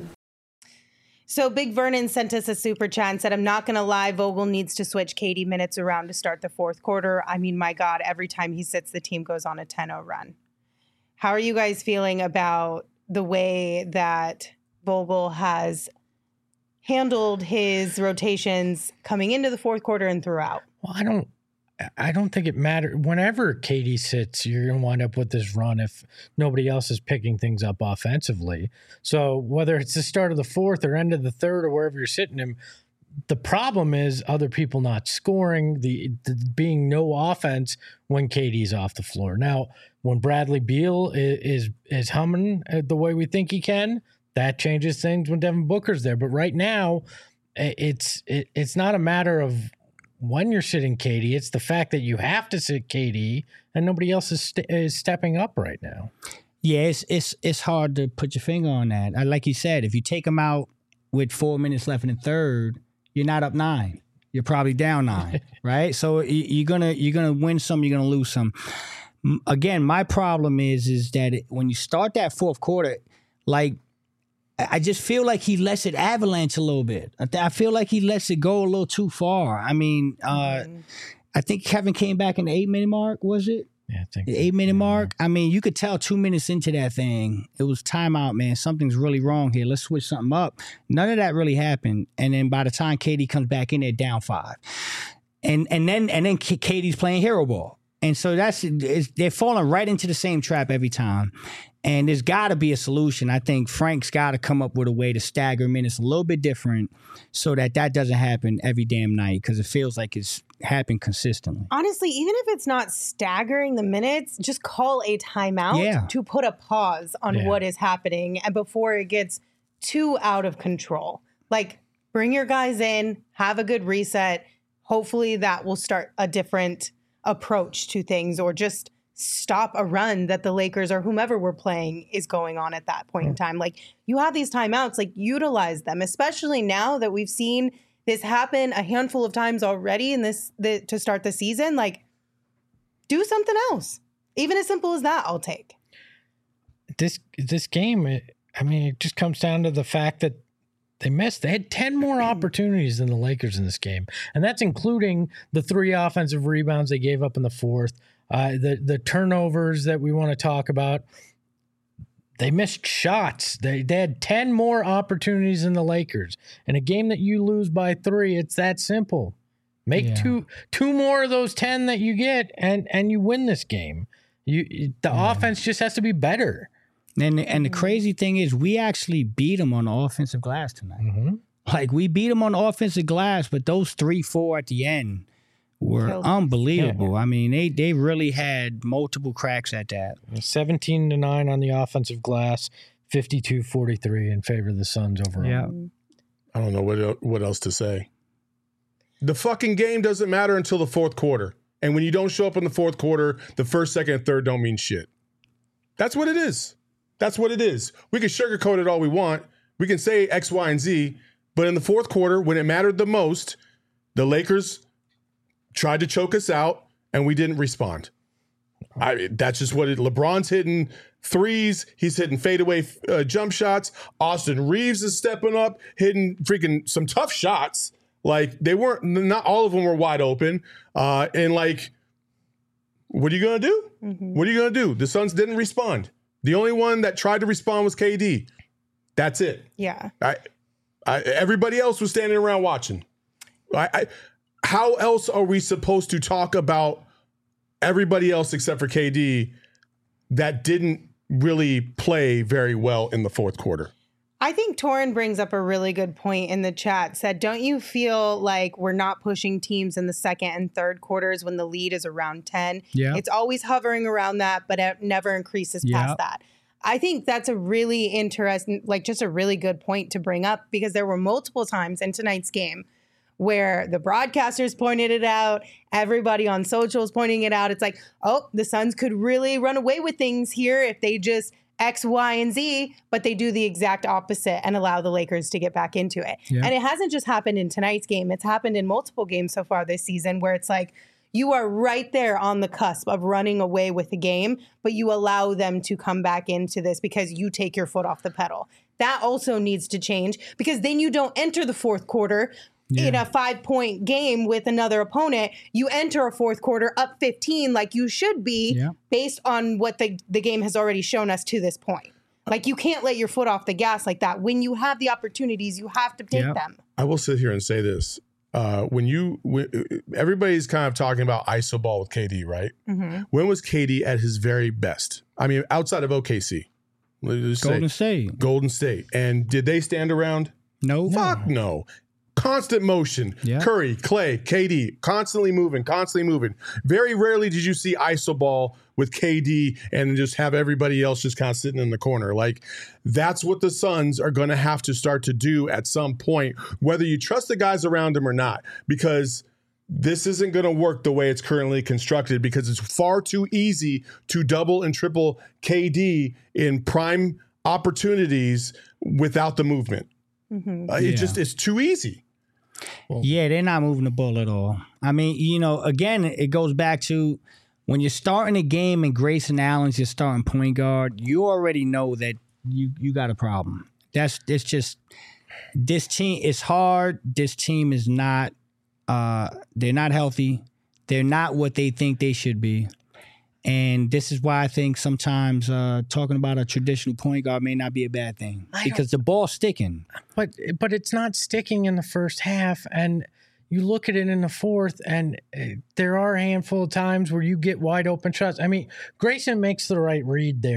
So Big Vernon sent us a super chat and said, I'm not going to lie, Vogel needs to switch K D minutes around to start the fourth quarter. I mean, my God, every time he sits, the team goes on a ten oh run. How are you guys feeling about the way that Vogel has handled his rotations coming into the fourth quarter and throughout? Well, I don't I don't think it matters. Whenever K D sits, you're going to wind up with this run if nobody else is picking things up offensively. So whether it's the start of the fourth or end of the third or wherever you're sitting him, the problem is other people not scoring, the, the being no offense when K D's off the floor. Now, when Bradley Beal is, is, is humming the way we think he can, that changes things when Devin Booker's there. But right now, it's it, it's not a matter of when you're sitting K D. It's the fact that you have to sit K D and nobody else is, st- is stepping up right now. Yeah, it's it's it's hard to put your finger on that. I, like you said, if you take him out with four minutes left in the third, you're not up nine. You're probably down nine, right? So you're gonna you're gonna win some, you're gonna lose some. Again, my problem is is that it, when you start that fourth quarter, like I just feel like he lets it avalanche a little bit. I, th- I feel like he lets it go a little too far. I mean, uh, mm-hmm. I think Kevin came back in the eight minute mark. Was it? Yeah, I think the so. eight minute yeah. mark. I mean, you could tell two minutes into that thing, it was timeout, man. Something's really wrong here. Let's switch something up. None of that really happened. And then by the time K D comes back in, they're down five, and and then and then K D's playing hero ball, and so that's it's, they're falling right into the same trap every time. And there's got to be a solution. I think Frank's got to come up with a way to stagger minutes a little bit different so that that doesn't happen every damn night because it feels like it's happened consistently. Honestly, even if it's not staggering the minutes, just call a timeout Yeah. to put a pause on Yeah. what is happening and before it gets too out of control. Like, bring your guys in, have a good reset. Hopefully that will start a different approach to things or just stop a run that the Lakers or whomever we're playing is going on at that point in time. Like, you have these timeouts, like, utilize them, especially now that we've seen this happen a handful of times already in this the, to start the season. Like, do something else. Even as simple as that, I'll take. This this game, it, I mean, it just comes down to the fact that they missed. They had ten more opportunities than the Lakers in this game, and that's including the three offensive rebounds they gave up in the fourth, uh, the the turnovers that we want to talk about. They missed shots. They, they had ten more opportunities than the Lakers. In a game that you lose by three, it's that simple. Make Yeah. two two more of those ten that you get, and and you win this game. You the Yeah. offense just has to be better. And and the crazy thing is, we actually beat them on the offensive glass tonight. Mm-hmm. Like, we beat them on the offensive glass, but those three, four at the end were Killed us. unbelievable. I mean, they they really had multiple cracks at that. seventeen to nine on the offensive glass, fifty-two forty-three in favor of the Suns overall. Yeah. I don't know what el- what else to say. The fucking game doesn't matter until the fourth quarter. And when you don't show up in the fourth quarter, the first, second, and third don't mean shit. That's what it is. That's what it is. We can sugarcoat it all we want. We can say X, Y, and Z. But in the fourth quarter, when it mattered the most, the Lakers tried to choke us out, and we didn't respond. I, that's just what it. LeBron's hitting threes. He's hitting fadeaway uh, jump shots. Austin Reeves is stepping up, hitting freaking some tough shots. Like, they weren't, not all of them were wide open. Uh, and like, what are you gonna do? Mm-hmm. What are you gonna do? The Suns didn't respond. The only one that tried to respond was K D. That's it. Yeah. I, I, everybody else was standing around watching. I, I, how else are we supposed to talk about everybody else except for K D that didn't really play very well in the fourth quarter? I think Torin brings up a really good point in the chat. Said, don't you feel like we're not pushing teams in the second and third quarters when the lead is around ten? Yeah. It's always hovering around that, but it never increases Yeah. past that. I think that's a really interesting, like just a really good point to bring up because there were multiple times in tonight's game where the broadcasters pointed it out, everybody on socials pointing it out. It's like, oh, the Suns could really run away with things here if they just X, Y, and Z, but they do the exact opposite and allow the Lakers to get back into it. Yeah. And it hasn't just happened in tonight's game. It's happened in multiple games so far this season where it's like you are right there on the cusp of running away with the game, but you allow them to come back into this because you take your foot off the pedal. That also needs to change because then you don't enter the fourth quarter in a five-point game with another opponent. You enter a fourth quarter up fifteen like you should be Yeah. based on what the, the game has already shown us to this point. Like, you can't let your foot off the gas like that. When you have the opportunities, you have to take Yeah. them. I will sit here and say this. Uh, when you, when, everybody's kind of talking about iso ball with K D, right? Mm-hmm. When was K D at his very best? I mean, outside of O K C. Let's just say Golden State. Golden State. And did they stand around? No. Fuck no. Constant motion. Yeah. Curry, Clay, K D, constantly moving, constantly moving. Very rarely did you see iso ball with K D and just have everybody else just kind of sitting in the corner. Like, that's what the Suns are going to have to start to do at some point, whether you trust the guys around them or not, because this isn't going to work the way it's currently constructed because it's far too easy to double and triple K D in prime opportunities without the movement. Mm-hmm. Uh, Yeah. It just, it's too easy. Yeah, they're not moving the ball at all. I mean, you know, again, it goes back to when you're starting a game and Grayson Allen's your starting point guard, you already know that you you got a problem. That's it's just this team is hard. This team is not uh they're not healthy. They're not what they think they should be. And this is why I think sometimes uh, talking about a traditional point guard may not be a bad thing I because the ball's sticking. But but it's not sticking in the first half, and you look at it in the fourth, and uh, there are a handful of times where you get wide open shots. I mean, Grayson makes the right read there,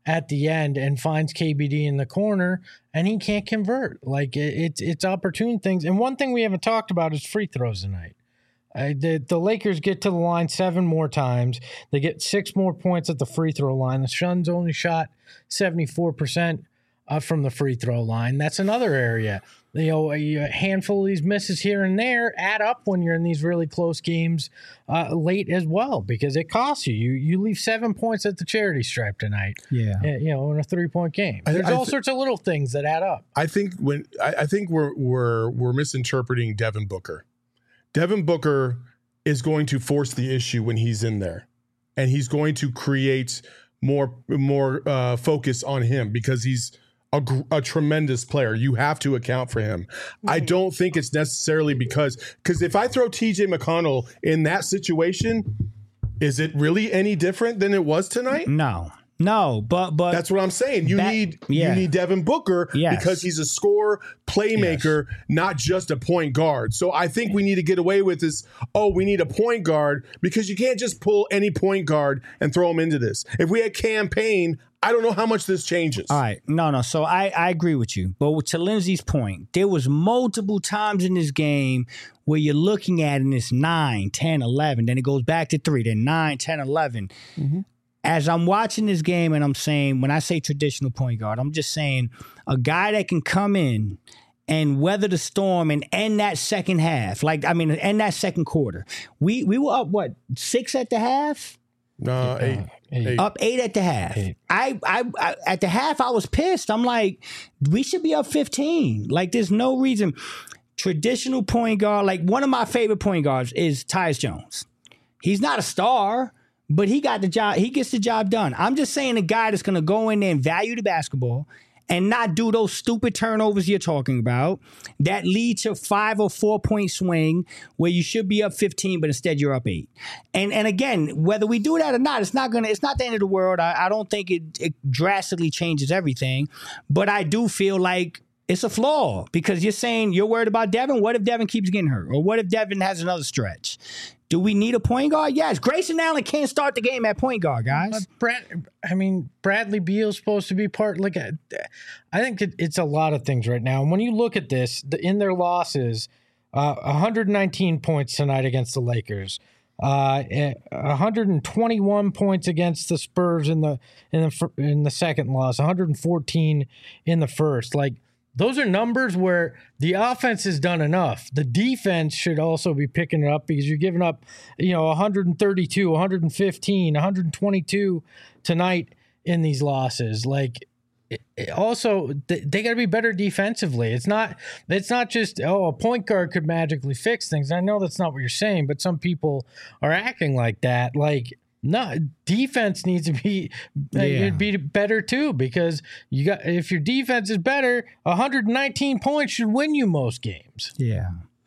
at the end and finds K B D in the corner, and he can't convert. Like it, it's it's opportune things. And one thing we haven't talked about is free throws tonight. Uh, the, the Lakers get to the line seven more times. They get six more points at the free throw line. The Suns only shot seventy-four percent uh, from the free throw line. That's another area. You know, a, a handful of these misses here and there add up when you're in these really close games uh, late as well, because it costs you. You you leave seven points at the charity stripe tonight. Yeah, uh, you know, in a three point game. I, There's I all th- sorts of little things that add up. I think when I, I think we're we're we're misinterpreting Devin Booker. Devin Booker is going to force the issue when he's in there, and he's going to create more more uh, focus on him because he's a, a tremendous player. You have to account for him. Mm-hmm. I don't think it's necessarily because because if I throw T J McConnell in that situation, is it really any different than it was tonight? No. No, but but that's what I'm saying. You that, need yeah. you need Devin Booker yes. because he's a scorer, playmaker, yes. not just a point guard. So I think we need to get away with this. Oh, we need a point guard because you can't just pull any point guard and throw him into this. If we had Cam Payne, I don't know how much this changes. All right, no, no. So I I agree with you, but to Lindsay's point, there was multiple times in this game where you're looking at and it's nine, ten, eleven, then it goes back to three, then nine, ten, eleven. Mm-hmm. As I'm watching this game and I'm saying, when I say traditional point guard, I'm just saying a guy that can come in and weather the storm and end that second half. Like, I mean, end that second quarter. We we were up, what, six at the half? No, eight. Uh, eight. Up eight at the half. I, I, I at the half, I was pissed. I'm like, we should be up fifteen. Like, there's no reason. Traditional point guard, like one of my favorite point guards is Tyus Jones. He's not a star, but he got the job. He gets the job done. I'm just saying a guy that's going to go in there and value the basketball and not do those stupid turnovers you're talking about that lead to five or four point swing where you should be up fifteen, but instead you're up eight. And and again, whether we do that or not, it's not gonna. It's not the end of the world. I, I don't think it, it drastically changes everything, but I do feel like it's a flaw because you're saying you're worried about Devin. What if Devin keeps getting hurt, or what if Devin has another stretch? Do we need a point guard? Yes. Grayson Allen can't start the game at point guard, guys. But Brad, I mean, Bradley Beal's supposed to be part. Like, a, I think it, it's a lot of things right now. And when you look at this, the, in their losses, uh, one hundred nineteen points tonight against the Lakers, uh, one hundred twenty-one points against the Spurs in the in the in the second loss, one hundred fourteen in the first. Like, those are numbers where the offense has done enough. The defense should also be picking it up because you're giving up, you know, one hundred thirty-two, one hundred fifteen, one hundred twenty-two tonight in these losses. Like, it, it also, they, they got to be better defensively. It's not, it's not just, oh, a point guard could magically fix things. I know that's not what you're saying, but some people are acting like that. Like, no, defense needs to be yeah. it'd be better too, because you got if your defense is better, one hundred nineteen points should win you most games. Yeah.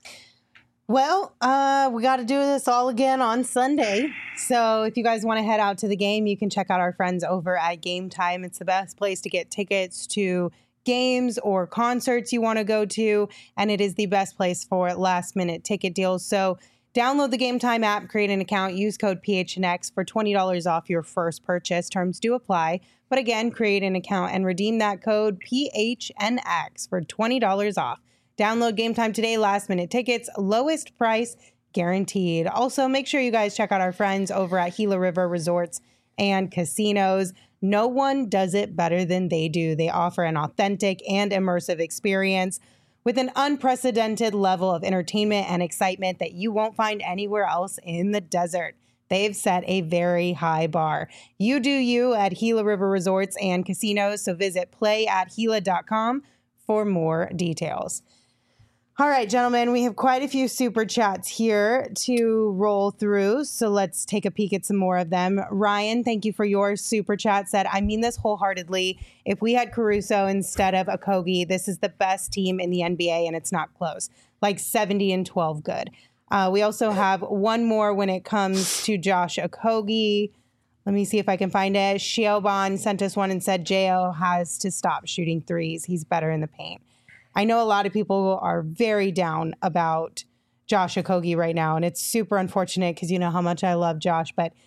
Well, uh, we got to do this all again on Sunday. So if you guys want to head out to the game, you can check out our friends over at Game Time. It's the best place to get tickets to games or concerts you want to go to, and it is the best place for last minute ticket deals. So download the Game Time app, create an account, use code P H N X for twenty dollars off your first purchase. Terms do apply. But again, create an account and redeem that code P H N X for twenty dollars off. Download Game Time today. Last minute tickets, lowest price guaranteed. Also, make sure you guys check out our friends over at Gila River Resorts and Casinos. No one does it better than they do. They offer an authentic and immersive experience with an unprecedented level of entertainment and excitement that you won't find anywhere else in the desert. They've set a very high bar. You do you at Gila River Resorts and Casinos, so visit play at gila dot com for more details. All right, gentlemen, we have quite a few super chats here to roll through, so let's take a peek at some more of them. Ryan, thank you for your super chat. Said, I mean this wholeheartedly. If we had Caruso instead of Okogie, this is the best team in the N B A, and it's not close. Like seventy and twelve good. Uh, we also have one more when it comes to Josh Okogie. Let me see if I can find it. Shiobon sent us one and said J O has to stop shooting threes. He's better in the paint. I know a lot of people are very down about Josh Okogie right now, and it's super unfortunate because you know how much I love Josh, but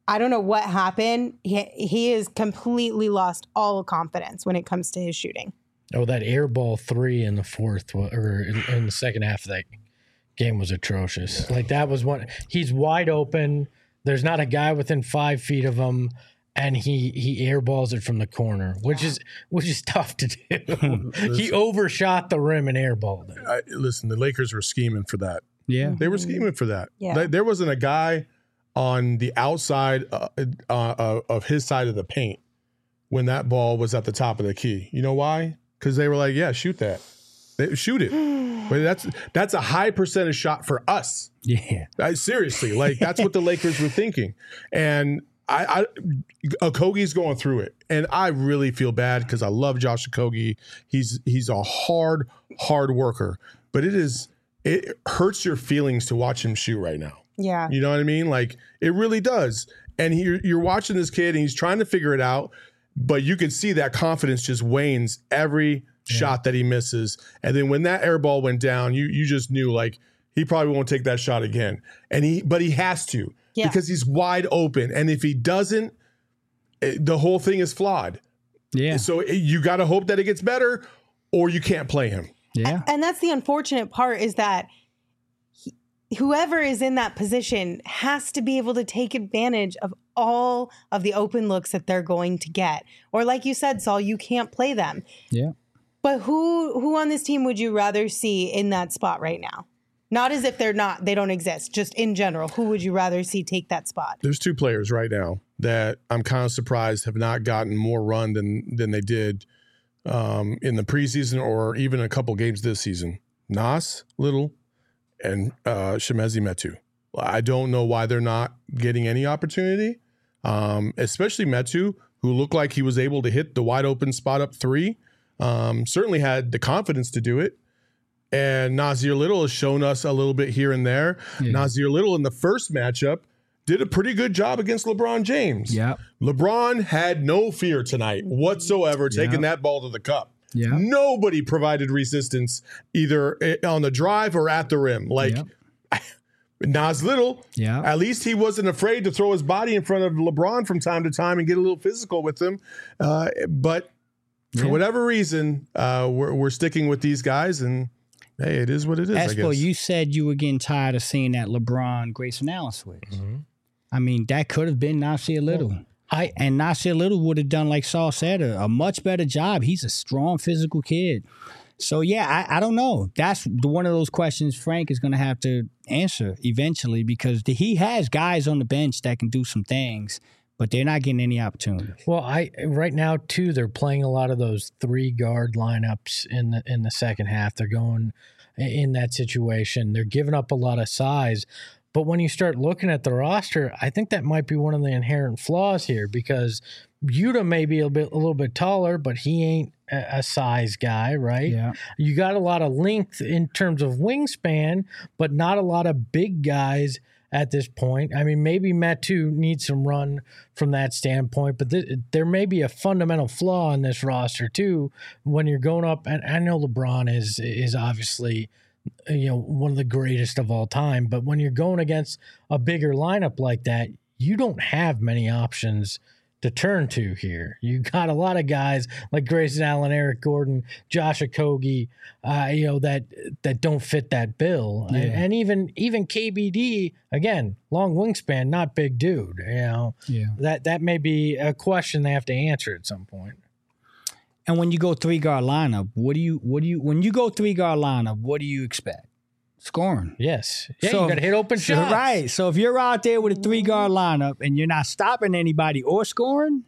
I don't know what happened. He, he has completely lost all confidence when it comes to his shooting. Oh, that air ball three in the fourth wa- or in, in the second half of that game was atrocious. Like that was one. He's wide open. There's not a guy within five feet of him, and he he airballs it from the corner, which is which is tough to do. He overshot the rim and airballed it. I, listen, the Lakers were scheming for that. Yeah. They were scheming for that. Yeah. Like, there wasn't a guy on the outside uh, uh, of his side of the paint when that ball was at the top of the key. You know why? Because they were like, yeah, shoot that. They, shoot it. But that's that's a high percentage shot for us. Yeah. I, seriously, like that's what the Lakers were thinking. And I, I Okogie's going through it. And I really feel bad because I love Josh Okogie. He's he's a hard, hard worker. But it is it hurts your feelings to watch him shoot right now. Yeah. You know what I mean? Like it really does. And he, you're watching this kid and he's trying to figure it out, but you can see that confidence just wanes every yeah. shot that he misses. And then when that air ball went down, you you just knew like he probably won't take that shot again. And he but he has to yeah. because he's wide open. And if he doesn't, it, the whole thing is flawed. Yeah. So it, you got to hope that it gets better or you can't play him. Yeah. And that's the unfortunate part is that he, whoever is in that position has to be able to take advantage of all of the open looks that they're going to get. Or like you said, Saul, you can't play them. Yeah. But who who on this team would you rather see in that spot right now? Not as if they're not, they don't exist, just in general. Who would you rather see take that spot? There's two players right now that I'm kind of surprised have not gotten more run than than they did um, in the preseason or even a couple games this season. Nas Little and uh, Chimezie Metu. I don't know why they're not getting any opportunity, um, especially Metu, who looked like he was able to hit the wide open spot up three. Um, certainly had the confidence to do it. And Nasir Little has shown us a little bit here and there. Yeah. Nasir Little in the first matchup did a pretty good job against LeBron James. Yeah. LeBron had no fear tonight whatsoever taking yeah. that ball to the cup. Yeah. Nobody provided resistance either on the drive or at the rim. Like yeah. Nas Little, yeah. at least he wasn't afraid to throw his body in front of LeBron from time to time and get a little physical with him. Uh, but for yeah. whatever reason, uh, we're, we're sticking with these guys, and hey, it is what it is. Espo, you said you were getting tired of seeing that LeBron Grayson Allen switch. Mm-hmm. I mean, that could have been Nasir Little. Well, I and Nasir Little would have done, like Saul said, a, a much better job. He's a strong physical kid. So, yeah, I, I don't know. That's the, one of those questions Frank is going to have to answer eventually because the, he has guys on the bench that can do some things, but they're not getting any opportunity. Well, I right now, too, they're playing a lot of those three-guard lineups in the in the second half. They're going in that situation. They're giving up a lot of size. But when you start looking at the roster, I think that might be one of the inherent flaws here because Yuta may be a bit a little bit taller, but he ain't a, a size guy, right? Yeah. You got a lot of length in terms of wingspan, but not a lot of big guys at this point. I mean, maybe Metu needs some run from that standpoint, but th- there may be a fundamental flaw in this roster too when you're going up. And I know LeBron is is obviously, you know, one of the greatest of all time, but when you're going against a bigger lineup like that, you don't have many options to turn to here. You got a lot of guys like Grayson Allen, Eric Gordon, Josh Okogie, uh, you know, that that don't fit that bill. Yeah. And, and even even K B D, again, long wingspan, not big dude. You know, yeah. that that may be a question they have to answer at some point. And when you go three guard lineup, what do you what do you when you go three guard lineup, what do you expect? Scoring. Yes. Yeah, so, you got to hit open so, shots. Right. So if you're out there with a three-guard lineup and you're not stopping anybody or scoring,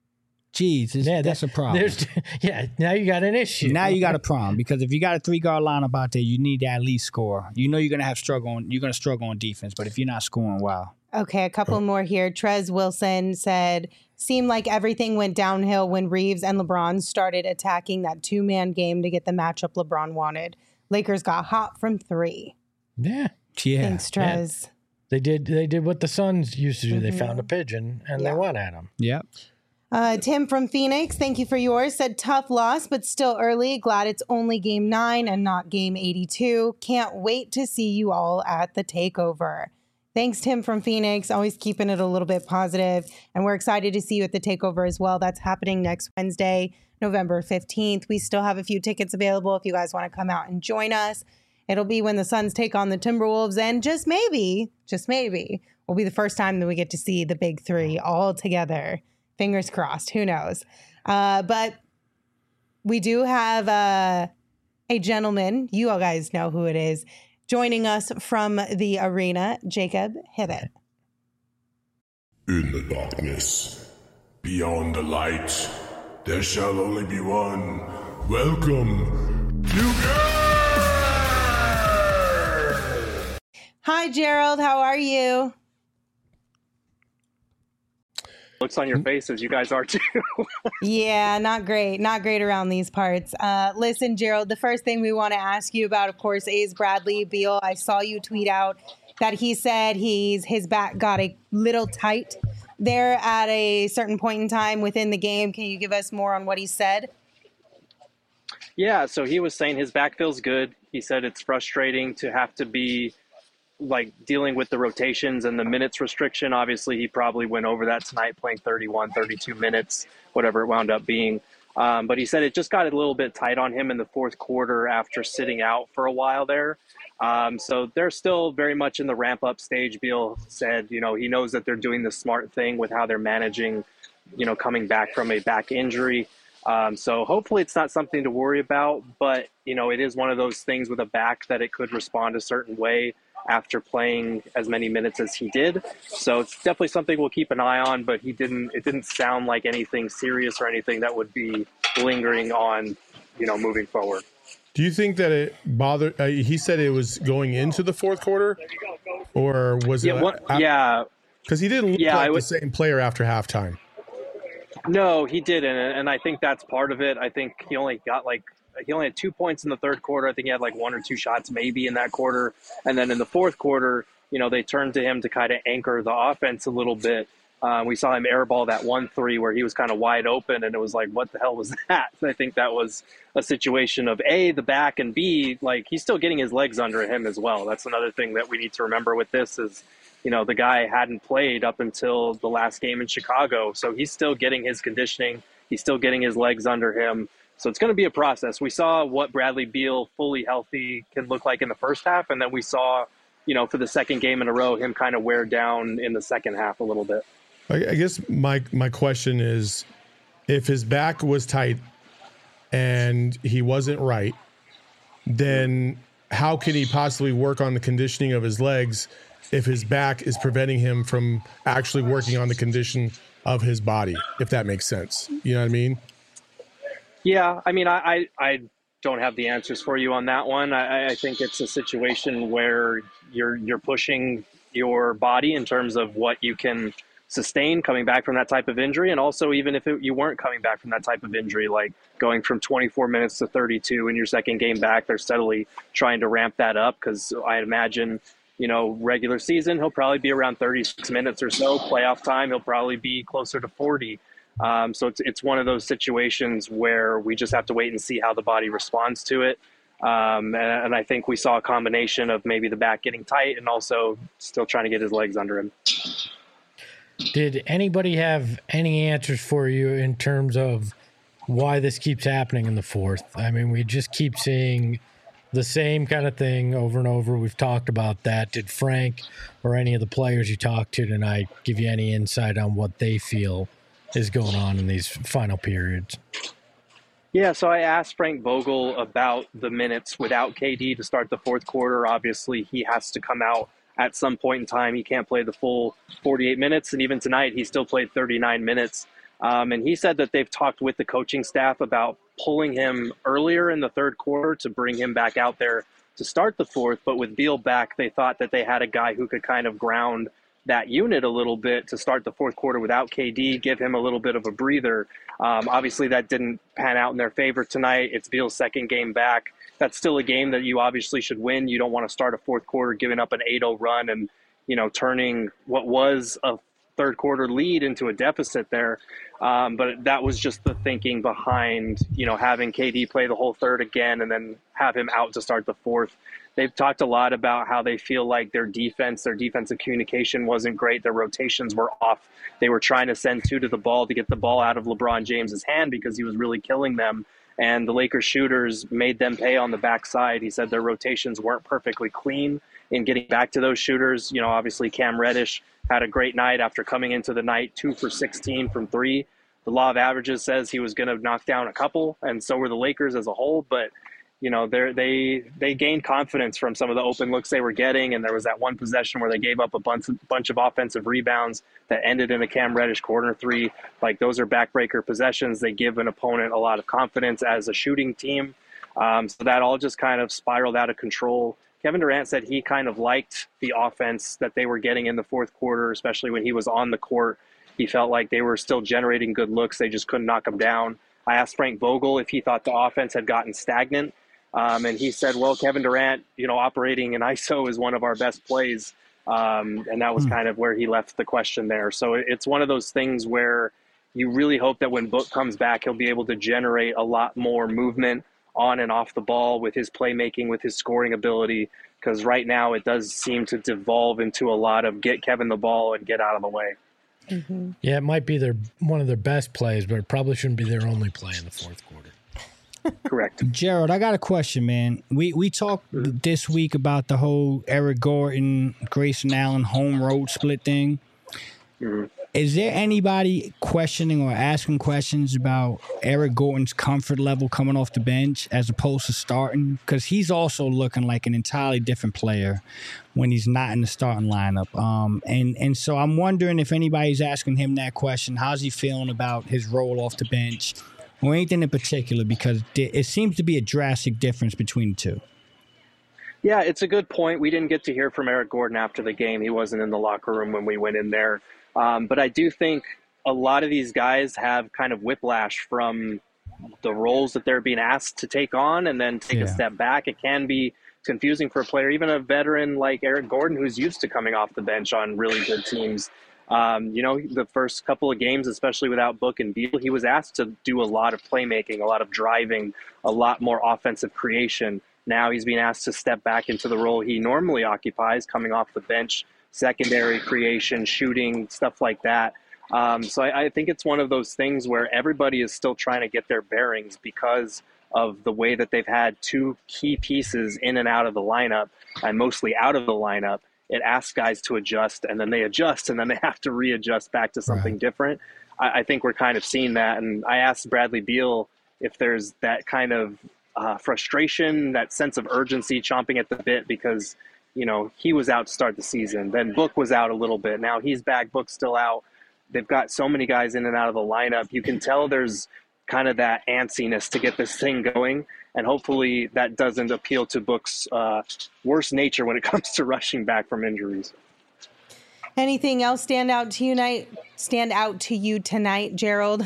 geez, yeah, that's that, a problem. Yeah, now you got an issue. Now you got a problem because if you got a three-guard lineup out there, you need to at least score. You know you're going to have struggle on, you're going to struggle on defense, but if you're not scoring, wow. Okay, a couple more here. Trez Wilson said, seemed like everything went downhill when Reeves and LeBron started attacking that two-man game to get the matchup LeBron wanted. Lakers got hot from three. Yeah. Yeah. Thanks, Trez. Yeah. They did They did what the Suns used to do. Mm-hmm. They found a pigeon, and yeah. they went at him. Yep. Uh, Tim from Phoenix, thank you for yours, said tough loss, but still early. Glad it's only game nine and not game eighty-two. Can't wait to see you all at the takeover. Thanks, Tim from Phoenix. Always keeping it a little bit positive. And we're excited to see you at the takeover as well. That's happening next Wednesday, November fifteenth. We still have a few tickets available if you guys want to come out and join us. It'll be when the Suns take on the Timberwolves. And just maybe, just maybe, will be the first time that we get to see the big three all together. Fingers crossed. Who knows? Uh, but we do have uh, a gentleman. You all guys know who it is. Joining us from the arena, Jacob, hit it. In the darkness, beyond the light, there shall only be one. Welcome to Hi, Gerald. How are you? Looks on your faces, you guys are too. Yeah, not great. Not great around these parts. Uh, listen, Gerald, the first thing we want to ask you about, of course, is Bradley Beal. I saw you tweet out that he said he's his back got a little tight there at a certain point in time within the game. Can you give us more on what he said? Yeah, so he was saying his back feels good. He said it's frustrating to have to be like dealing with the rotations and the minutes restriction. Obviously, he probably went over that tonight, playing thirty-one, thirty-two minutes, whatever it wound up being. Um, but he said it just got a little bit tight on him in the fourth quarter after sitting out for a while there. Um, so they're still very much in the ramp-up stage. Beal said, you know, he knows that they're doing the smart thing with how they're managing, you know, coming back from a back injury. Um, so hopefully it's not something to worry about. But, you know, it is one of those things with a back that it could respond a certain way after playing as many minutes as he did. So it's definitely something we'll keep an eye on, but he didn't, it didn't sound like anything serious or anything that would be lingering on, you know, moving forward. Do you think that it bothered, uh, he said it was going into the fourth quarter, or was yeah, it? What, uh, yeah. Because he didn't look yeah, like would, the same player after halftime. No, he didn't. And I think that's part of it. I think he only got like, he only had two points in the third quarter. I think he had like one or two shots maybe in that quarter. And then in the fourth quarter, you know, they turned to him to kind of anchor the offense a little bit. Uh, we saw him airball that one three where he was kind of wide open, and it was like, what the hell was that? I think that was a situation of A, the back, and B, like he's still getting his legs under him as well. That's another thing that we need to remember with this is, you know, the guy hadn't played up until the last game in Chicago. So he's still getting his conditioning. He's still getting his legs under him. So it's going to be a process. We saw what Bradley Beal fully healthy can look like in the first half. And then we saw, you know, for the second game in a row, him kind of wear down in the second half a little bit. I guess my, my question is, if his back was tight and he wasn't right, then how can he possibly work on the conditioning of his legs if his back is preventing him from actually working on the condition of his body, if that makes sense? You know what I mean? Yeah, I mean, I, I, I don't have the answers for you on that one. I, I think it's a situation where you're you're pushing your body in terms of what you can sustain coming back from that type of injury. And also, even if it, you weren't coming back from that type of injury, like going from twenty-four minutes to thirty-two in your second game back, they're steadily trying to ramp that up because I imagine, you know, regular season, he'll probably be around thirty-six minutes or so. Playoff time, he'll probably be closer to forty. Um, so it's it's one of those situations where we just have to wait and see how the body responds to it. Um, and, and I think we saw a combination of maybe the back getting tight and also still trying to get his legs under him. Did anybody have any answers for you in terms of why this keeps happening in the fourth? I mean, we just keep seeing the same kind of thing over and over. We've talked about that. Did Frank or any of the players you talked to tonight give you any insight on what they feel is going on in these final periods? Yeah, so I asked Frank Vogel about the minutes without K D to start the fourth quarter. Obviously, he has to come out at some point in time. He can't play the full forty-eight minutes, and even tonight he still played thirty-nine minutes. Um, and he said that they've talked with the coaching staff about pulling him earlier in the third quarter to bring him back out there to start the fourth. But with Beal back, they thought that they had a guy who could kind of ground that unit a little bit to start the fourth quarter without K D, give him a little bit of a breather. Um, obviously, that didn't pan out in their favor tonight. It's Beal's second game back. That's still a game that you obviously should win. You don't want to start a fourth quarter giving up an eight oh run and, you know, turning what was a third quarter lead into a deficit there. Um, but that was just the thinking behind, you know, having K D play the whole third again and then have him out to start the fourth. They've talked a lot about how they feel like their defense, their defensive communication wasn't great. Their rotations were off. They were trying to send two to the ball to get the ball out of LeBron James's hand because he was really killing them. And the Lakers shooters made them pay on the backside. He said their rotations weren't perfectly clean in getting back to those shooters. You know, obviously Cam Reddish had a great night after coming into the night, two for sixteen from three. The law of averages says he was going to knock down a couple, and so were the Lakers as a whole. But you know, they they gained confidence from some of the open looks they were getting, and there was that one possession where they gave up a bunch of, bunch of offensive rebounds that ended in a Cam Reddish corner three. Like, those are backbreaker possessions. They give an opponent a lot of confidence as a shooting team. Um, so that all just kind of spiraled out of control. Kevin Durant said he kind of liked the offense that they were getting in the fourth quarter, especially when he was on the court. He felt like they were still generating good looks. They just couldn't knock them down. I asked Frank Vogel if he thought the offense had gotten stagnant. Um, and he said, well, Kevin Durant, you know, operating in I S O is one of our best plays. Um, and that was kind of where he left the question there. So it's one of those things where you really hope that when Book comes back, he'll be able to generate a lot more movement on and off the ball with his playmaking, with his scoring ability. Because right now it does seem to devolve into a lot of get Kevin the ball and get out of the way. Mm-hmm. Yeah, it might be their one of their best plays, but it probably shouldn't be their only play in the fourth quarter. Correct. Gerald, I got a question, man. We we talked this week about the whole Eric Gordon, Grayson Allen home road split thing. Mm-hmm. Is there anybody questioning or asking questions about Eric Gordon's comfort level coming off the bench as opposed to starting? Because he's also looking like an entirely different player when he's not in the starting lineup. Um, and, and so I'm wondering if anybody's asking him that question. How's he feeling about his role off the bench? Or anything in particular, because it seems to be a drastic difference between the two. Yeah, it's a good point. We didn't get to hear from Eric Gordon after the game. He wasn't in the locker room when we went in there. Um, but I do think a lot of these guys have kind of whiplash from the roles that they're being asked to take on and then take yeah. a step back. It can be confusing for a player, even a veteran like Eric Gordon, who's used to coming off the bench on really good teams. Um, you know, the first couple of games, especially without Book and Beal, he was asked to do a lot of playmaking, a lot of driving, a lot more offensive creation. Now he's being asked to step back into the role he normally occupies, coming off the bench, secondary creation, shooting, stuff like that. Um, so I, I think it's one of those things where everybody is still trying to get their bearings because of the way that they've had two key pieces in and out of the lineup, and mostly out of the lineup. It asks guys to adjust, and then they adjust, and then they have to readjust back to something right. different. I, I think we're kind of seeing that. And I asked Bradley Beal if there's that kind of uh, frustration, that sense of urgency chomping at the bit because, you know, he was out to start the season. Then Book was out a little bit. Now he's back. Book's still out. They've got so many guys in and out of the lineup. You can tell there's kind of that antsiness to get this thing going. And hopefully that doesn't appeal to Book's uh, worst nature when it comes to rushing back from injuries. Anything else stand out to you night? Stand out to you tonight, Gerald?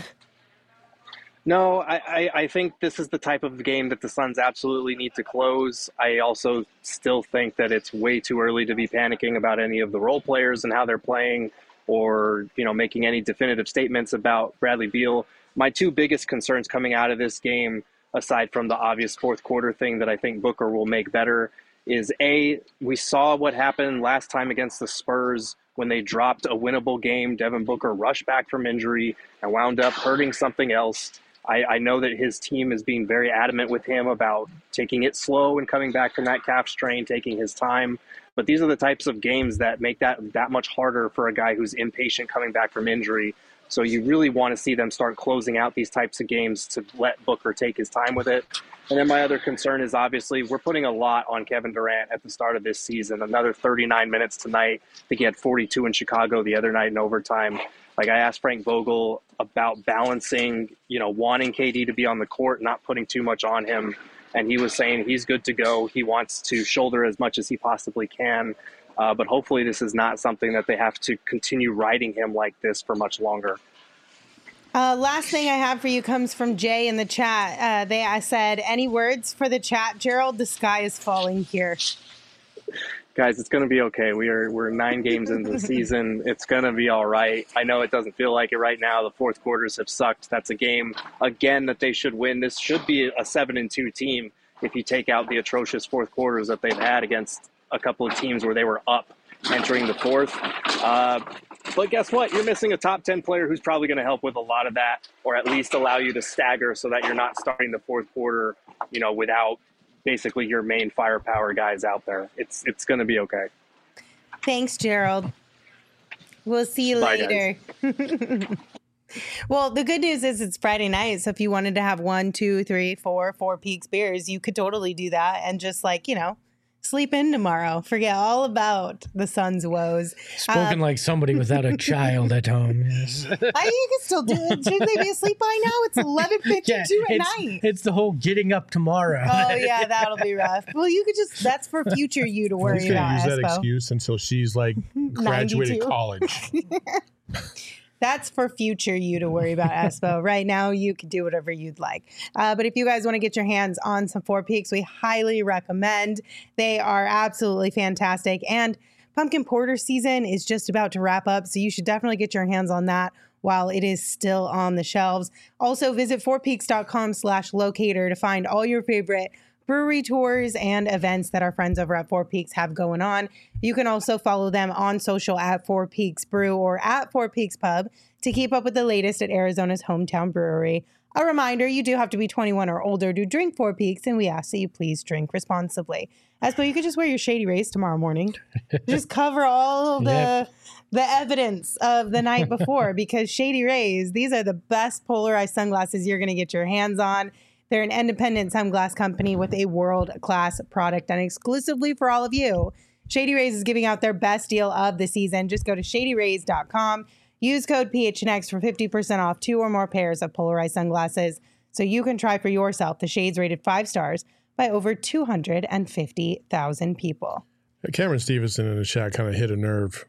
No, I, I, I think this is the type of game that the Suns absolutely need to close. I also still think that it's way too early to be panicking about any of the role players and how they're playing, or you know, making any definitive statements about Bradley Beal. My two biggest concerns coming out of this game, aside from the obvious fourth quarter thing that I think Booker will make better, is A, we saw what happened last time against the Spurs when they dropped a winnable game. Devin Booker rushed back from injury and wound up hurting something else. I, I know that his team is being very adamant with him about taking it slow and coming back from that calf strain, taking his time. But these are the types of games that make that that much harder for a guy who's impatient coming back from injury. So you really want to see them start closing out these types of games to let Booker take his time with it. And then my other concern is obviously we're putting a lot on Kevin Durant at the start of this season. Another thirty-nine minutes tonight. I think he had forty-two in Chicago the other night in overtime. Like, I asked Frank Vogel about balancing, you know, wanting K D to be on the court, not putting too much on him. And he was saying he's good to go. He wants to shoulder as much as he possibly can. Uh, but hopefully this is not something that they have to continue riding him like this for much longer. Uh, last thing I have for you comes from Jay in the chat. Uh, they I said, any words for the chat, Gerald? The sky is falling here. Guys, it's going to be okay. We are we're nine games into the season. It's going to be all right. I know it doesn't feel like it right now. The fourth quarters have sucked. That's a game again that they should win. This should be a seven and two team if you take out the atrocious fourth quarters that they've had against a couple of teams where they were up entering the fourth. Uh, but guess what? You're missing a top ten player who's probably going to help with a lot of that, or at least allow you to stagger so that you're not starting the fourth quarter, you know, without basically your main firepower guys out there. It's it's going to be okay. Thanks, Gerald. We'll see you Bye, later. Well, the good news is it's Friday night. So if you wanted to have one, two, three, four, four Peaks beers, you could totally do that and just like, you know, sleep in tomorrow. Forget all about the Suns' woes. Spoken uh, like somebody without a child at home. Yes. I, you can still do it. Should they be asleep by now? It's eleven fifty-two Yeah, at it's, night. it's the whole getting up tomorrow. Oh, yeah, that'll be rough. Well, you could just, that's for future you to worry He's gonna about, use that Espo. excuse until she's like graduated ninety-two. college. That's for future you to worry about, Espo. Right now, you can do whatever you'd like. Uh, but if you guys want to get your hands on some Four Peaks, we highly recommend. They are absolutely fantastic. And pumpkin porter season is just about to wrap up, so you should definitely get your hands on that while it is still on the shelves. Also, visit fourpeaks.com slash locator to find all your favorite brewery tours and events that our friends over at Four Peaks have going on. You can also follow them on social at Four Peaks Brew or at Four Peaks Pub to keep up with the latest at Arizona's hometown brewery. A reminder, you do have to be twenty-one or older to drink Four Peaks, and we ask that you please drink responsibly. Espo, you could just wear your Shady Rays tomorrow morning. Just cover all the Yep. the evidence of the night before, because Shady Rays, these are the best polarized sunglasses you're going to get your hands on. They're an independent sunglass company with a world-class product, and exclusively for all of you, Shady Rays is giving out their best deal of the season. Just go to shady rays dot com. Use code P H N X for fifty percent off two or more pairs of polarized sunglasses so you can try for yourself the shades rated five stars by over two hundred fifty thousand people. Cameron Stevenson in the chat kind of hit a nerve.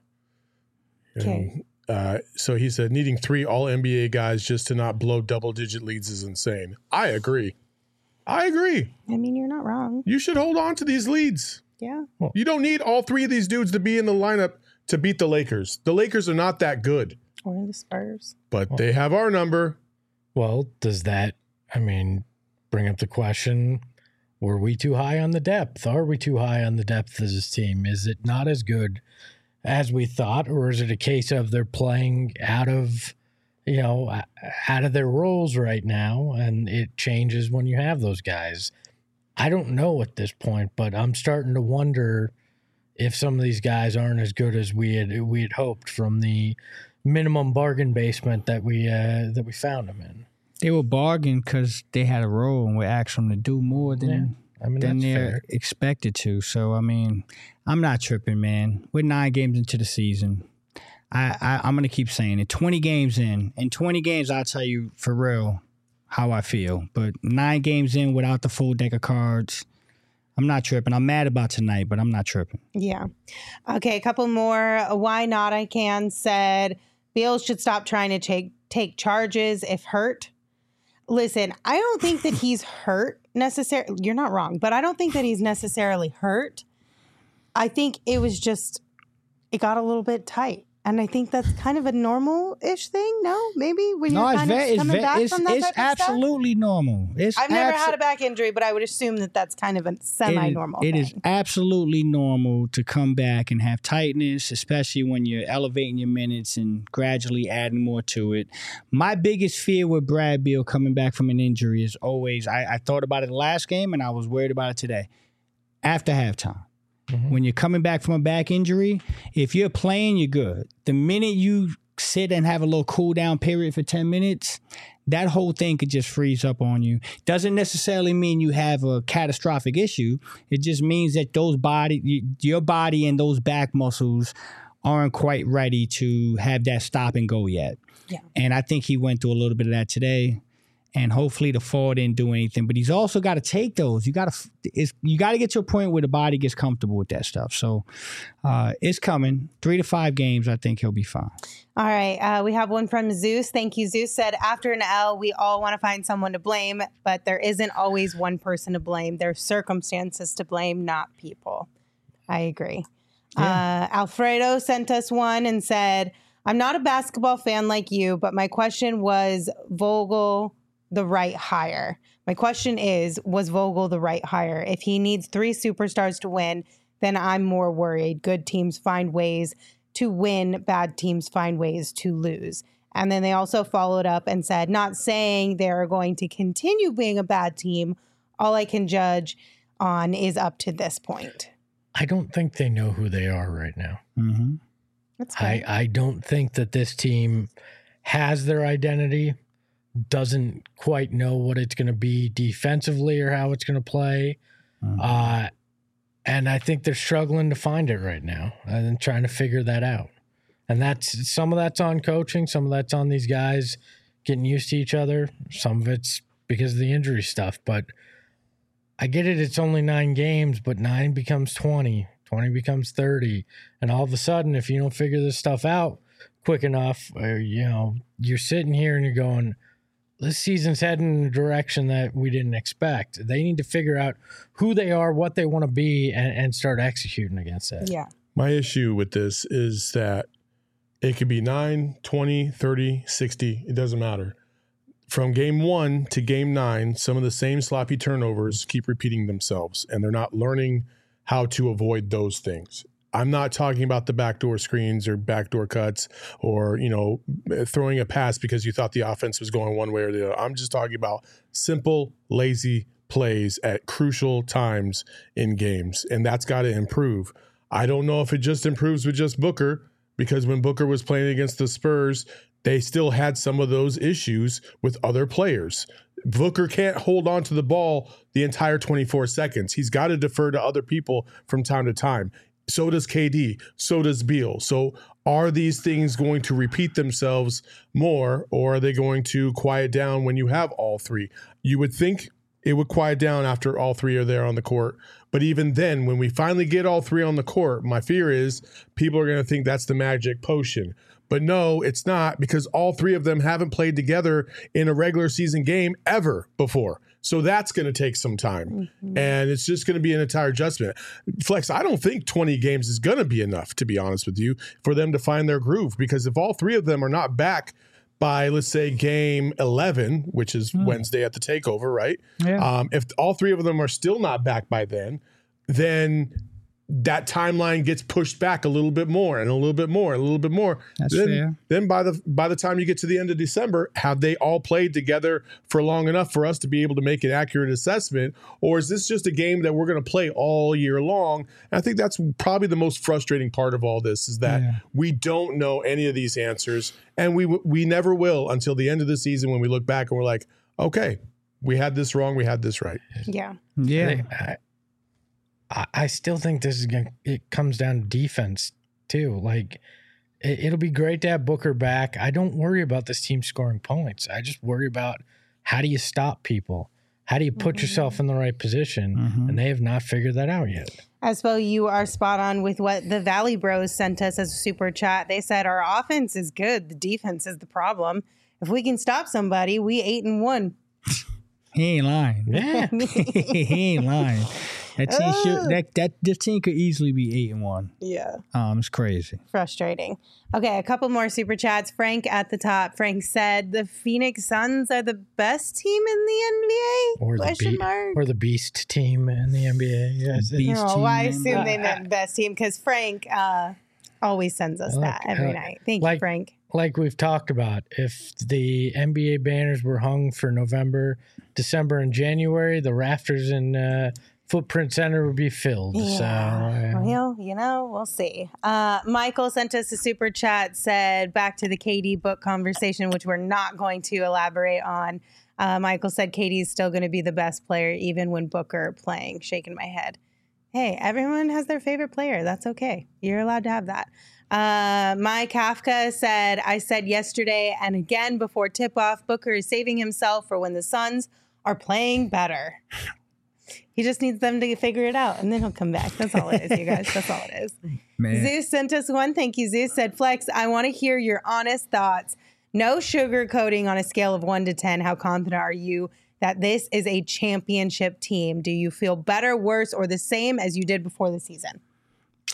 Okay. Uh, so he said, needing three all N B A guys just to not blow double-digit leads is insane. I agree. I agree. I mean, you're not wrong. You should hold on to these leads. Yeah. You don't need all three of these dudes to be in the lineup to beat the Lakers. The Lakers are not that good, Or the Spurs. but they have our number. Well, does that, I mean, bring up the question, were we too high on the depth? Are we too high on the depth as this team? Is it not as good as we thought, or is it a case of they're playing out of, you know, out of their roles right now, and it changes when you have those guys? I don't know at this point, but I'm starting to wonder if some of these guys aren't as good as we had we had hoped from the minimum bargain basement that we uh, that we found them in. They were bargained because they had a role, and we asked them to do more than Yeah. I mean, than that's they're fair. expected to. So, I mean, I'm not tripping, man. We're nine games into the season. I, I, I'm going to keep saying it. twenty games in. In twenty games, I'll tell you for real how I feel. But nine games in without the full deck of cards, I'm not tripping. I'm mad about tonight, but I'm not tripping. Yeah. Okay, a couple more. Why Not I Can said, Beal should stop trying to take take charges if hurt. Listen, I don't think that he's hurt necessarily. You're not wrong, but I don't think that he's necessarily hurt. I think it was just, it got a little bit tight. And I think that's kind of a normal-ish thing, no? Maybe when No, you're it's kind very, of it's, coming very, back it's, from that it's type of stuff? absolutely normal. It's I've never abso- had a back injury, but I would assume that that's kind of a semi-normal It thing. is absolutely normal to come back and have tightness, especially when you're elevating your minutes and gradually adding more to it. My biggest fear with Brad Beal coming back from an injury is always, I, I thought about it the last game and I was worried about it today, after halftime. Mm-hmm. When you're coming back from a back injury, if you're playing, you're good. The minute you sit and have a little cool down period for ten minutes, that whole thing could just freeze up on you. Doesn't necessarily mean you have a catastrophic issue. It just means that those body, your body and those back muscles aren't quite ready to have that stop and go yet. Yeah. And I think he went through a little bit of that today. And hopefully the fall didn't do anything. But he's also got to take those. You got to it's you got to get to a point where the body gets comfortable with that stuff. So uh, it's coming. Three to five games, I think he'll be fine. All right. Uh, we have one from Zeus. Thank you. Zeus said, after an L, we all want to find someone to blame, but there isn't always one person to blame. There's circumstances to blame, not people. I agree. Uh, Alfredo sent us one and said, I'm not a basketball fan like you, but my question was Vogel the right hire? My question is, was Vogel the right hire? If he needs three superstars to win, then I'm more worried. Good teams find ways to win. Bad teams find ways to lose. And then they also followed up and said, not saying they're going to continue being a bad team. All I can judge on is up to this point. I don't think they know who they are right now. Mm-hmm. That's I, I don't think that this team has their identity, doesn't quite know what it's going to be defensively or how it's going to play. Mm-hmm. Uh, and I think they're struggling to find it right now and trying to figure that out. And that's some of that's on coaching, some of that's on these guys getting used to each other. Some of it's because of the injury stuff. But I get it, it's only nine games, but nine becomes twenty, twenty becomes thirty. And all of a sudden, if you don't figure this stuff out quick enough, or, you know, you're sitting here and you're going, this season's heading in a direction that we didn't expect. They need to figure out who they are, what they want to be, and, and start executing against that. Yeah. My issue with this is that it could be nine, twenty, thirty, sixty. It doesn't matter. From game one to game nine, some of the same sloppy turnovers keep repeating themselves, and they're not learning how to avoid those things. I'm not talking about the backdoor screens or backdoor cuts or, you know, throwing a pass because you thought the offense was going one way or the other. I'm just talking about simple, lazy plays at crucial times in games, and that's got to improve. I don't know if it just improves with just Booker, because when Booker was playing against the Spurs, they still had some of those issues with other players. Booker can't hold on to the ball the entire twenty-four seconds. He's got to defer to other people from time to time. So does K D. So does Beal. So are these things going to repeat themselves more, or are they going to quiet down when you have all three? You would think it would quiet down after all three are there on the court. But even then, when we finally get all three on the court, my fear is people are going to think that's the magic potion. But no, it's not, because all three of them haven't played together in a regular season game ever before. So that's going to take some time. Mm-hmm. And it's just going to be an entire adjustment. Flex, I don't think twenty games is going to be enough, to be honest with you, for them to find their groove. Because if all three of them are not back by, let's say, game eleven, which is mm. Wednesday at the takeover, right? Yeah. Um, if all three of them are still not back by then, then that timeline gets pushed back a little bit more and a little bit more and a little bit more. That's then, fair. Then by the by the time you get to the end of December, have they all played together for long enough for us to be able to make an accurate assessment? Or is this just a game that we're going to play all year long? And I think that's probably the most frustrating part of all this, is that yeah. we don't know any of these answers, and we we never will until the end of the season, when we look back and we're like, okay, we had this wrong, we had this right. Yeah. Yeah. I, I still think this is going to, it comes down to defense too. Like, it, it'll be great to have Booker back. I don't worry about this team scoring points. I just worry about, how do you stop people? How do you put mm-hmm. yourself in the right position? Mm-hmm. And they have not figured that out yet. Espo, you are spot on with what the Valley Bros sent us as a super chat. They said our offense is good. The defense is the problem. If we can stop somebody, we eight and one. He ain't lying. Yeah. He ain't lying. That team uh, should, that that this team could easily be eight and one. Yeah. Um, it's crazy. Frustrating. Okay, a couple more super chats. Frank at the top. Frank said the Phoenix Suns are the best team in the N B A? Or the, be- mark? or the Beast team in the N B A. Yes. Beast no, team I in assume they meant best team, because Frank uh, always sends us like, that every uh, night. Thank like, you, Frank. Like we've talked about, if the N B A banners were hung for November, December, and January, the rafters in uh, Footprint Center would be filled. Yeah. So, yeah. Well, you know, we'll see. Uh, Michael sent us a super chat, said, back to the K D book conversation, which we're not going to elaborate on. Uh, Michael said K D is still going to be the best player, even when Booker playing. Shaking my head. Hey, everyone has their favorite player. That's okay. You're allowed to have that. Uh, my Kafka said, I said yesterday and again before tip-off, Booker is saving himself for when the Suns are playing better. He just needs them to figure it out, and then he'll come back. That's all it is, you guys. That's all it is. Man. Zeus sent us one. Thank you, Zeus. Said, Flex, I want to hear your honest thoughts. No sugarcoating on a scale of one to ten. How confident are you that this is a championship team? Do you feel better, worse, or the same as you did before the season?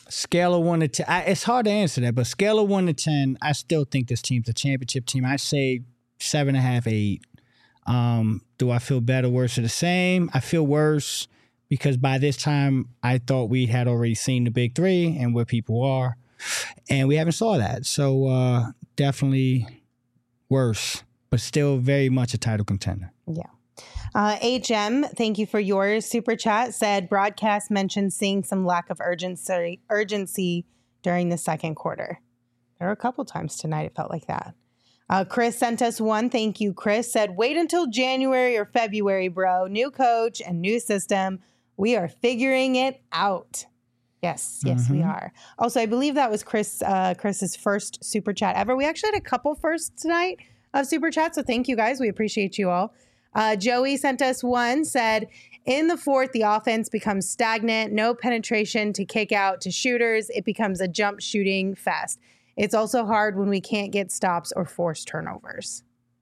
Scale of one to ten. I, it's hard to answer that, but scale of one to ten, I still think this team's a championship team. I say seven and a half, eight. Um, do I feel better, worse, or the same? I feel worse because by this time I thought we had already seen the big three and where people are, and we haven't saw that. So uh, definitely worse, but still very much a title contender. Yeah. Uh, H M, thank you for your super chat. Said broadcast mentioned seeing some lack of urgency urgency during the second quarter. There were a couple times tonight it felt like that. Uh, Chris sent us one. Thank you, Chris. Said wait until January or February, bro. New coach and new system. We are figuring it out. Yes, yes, mm-hmm. we are. Also, I believe that was Chris uh, Chris's first super chat ever. We actually had a couple firsts tonight of super chats, so thank you guys. We appreciate you all. Uh, Joey sent us one, said, in the fourth, the offense becomes stagnant, no penetration to kick out to shooters. It becomes a jump shooting fest. It's also hard when we can't get stops or force turnovers.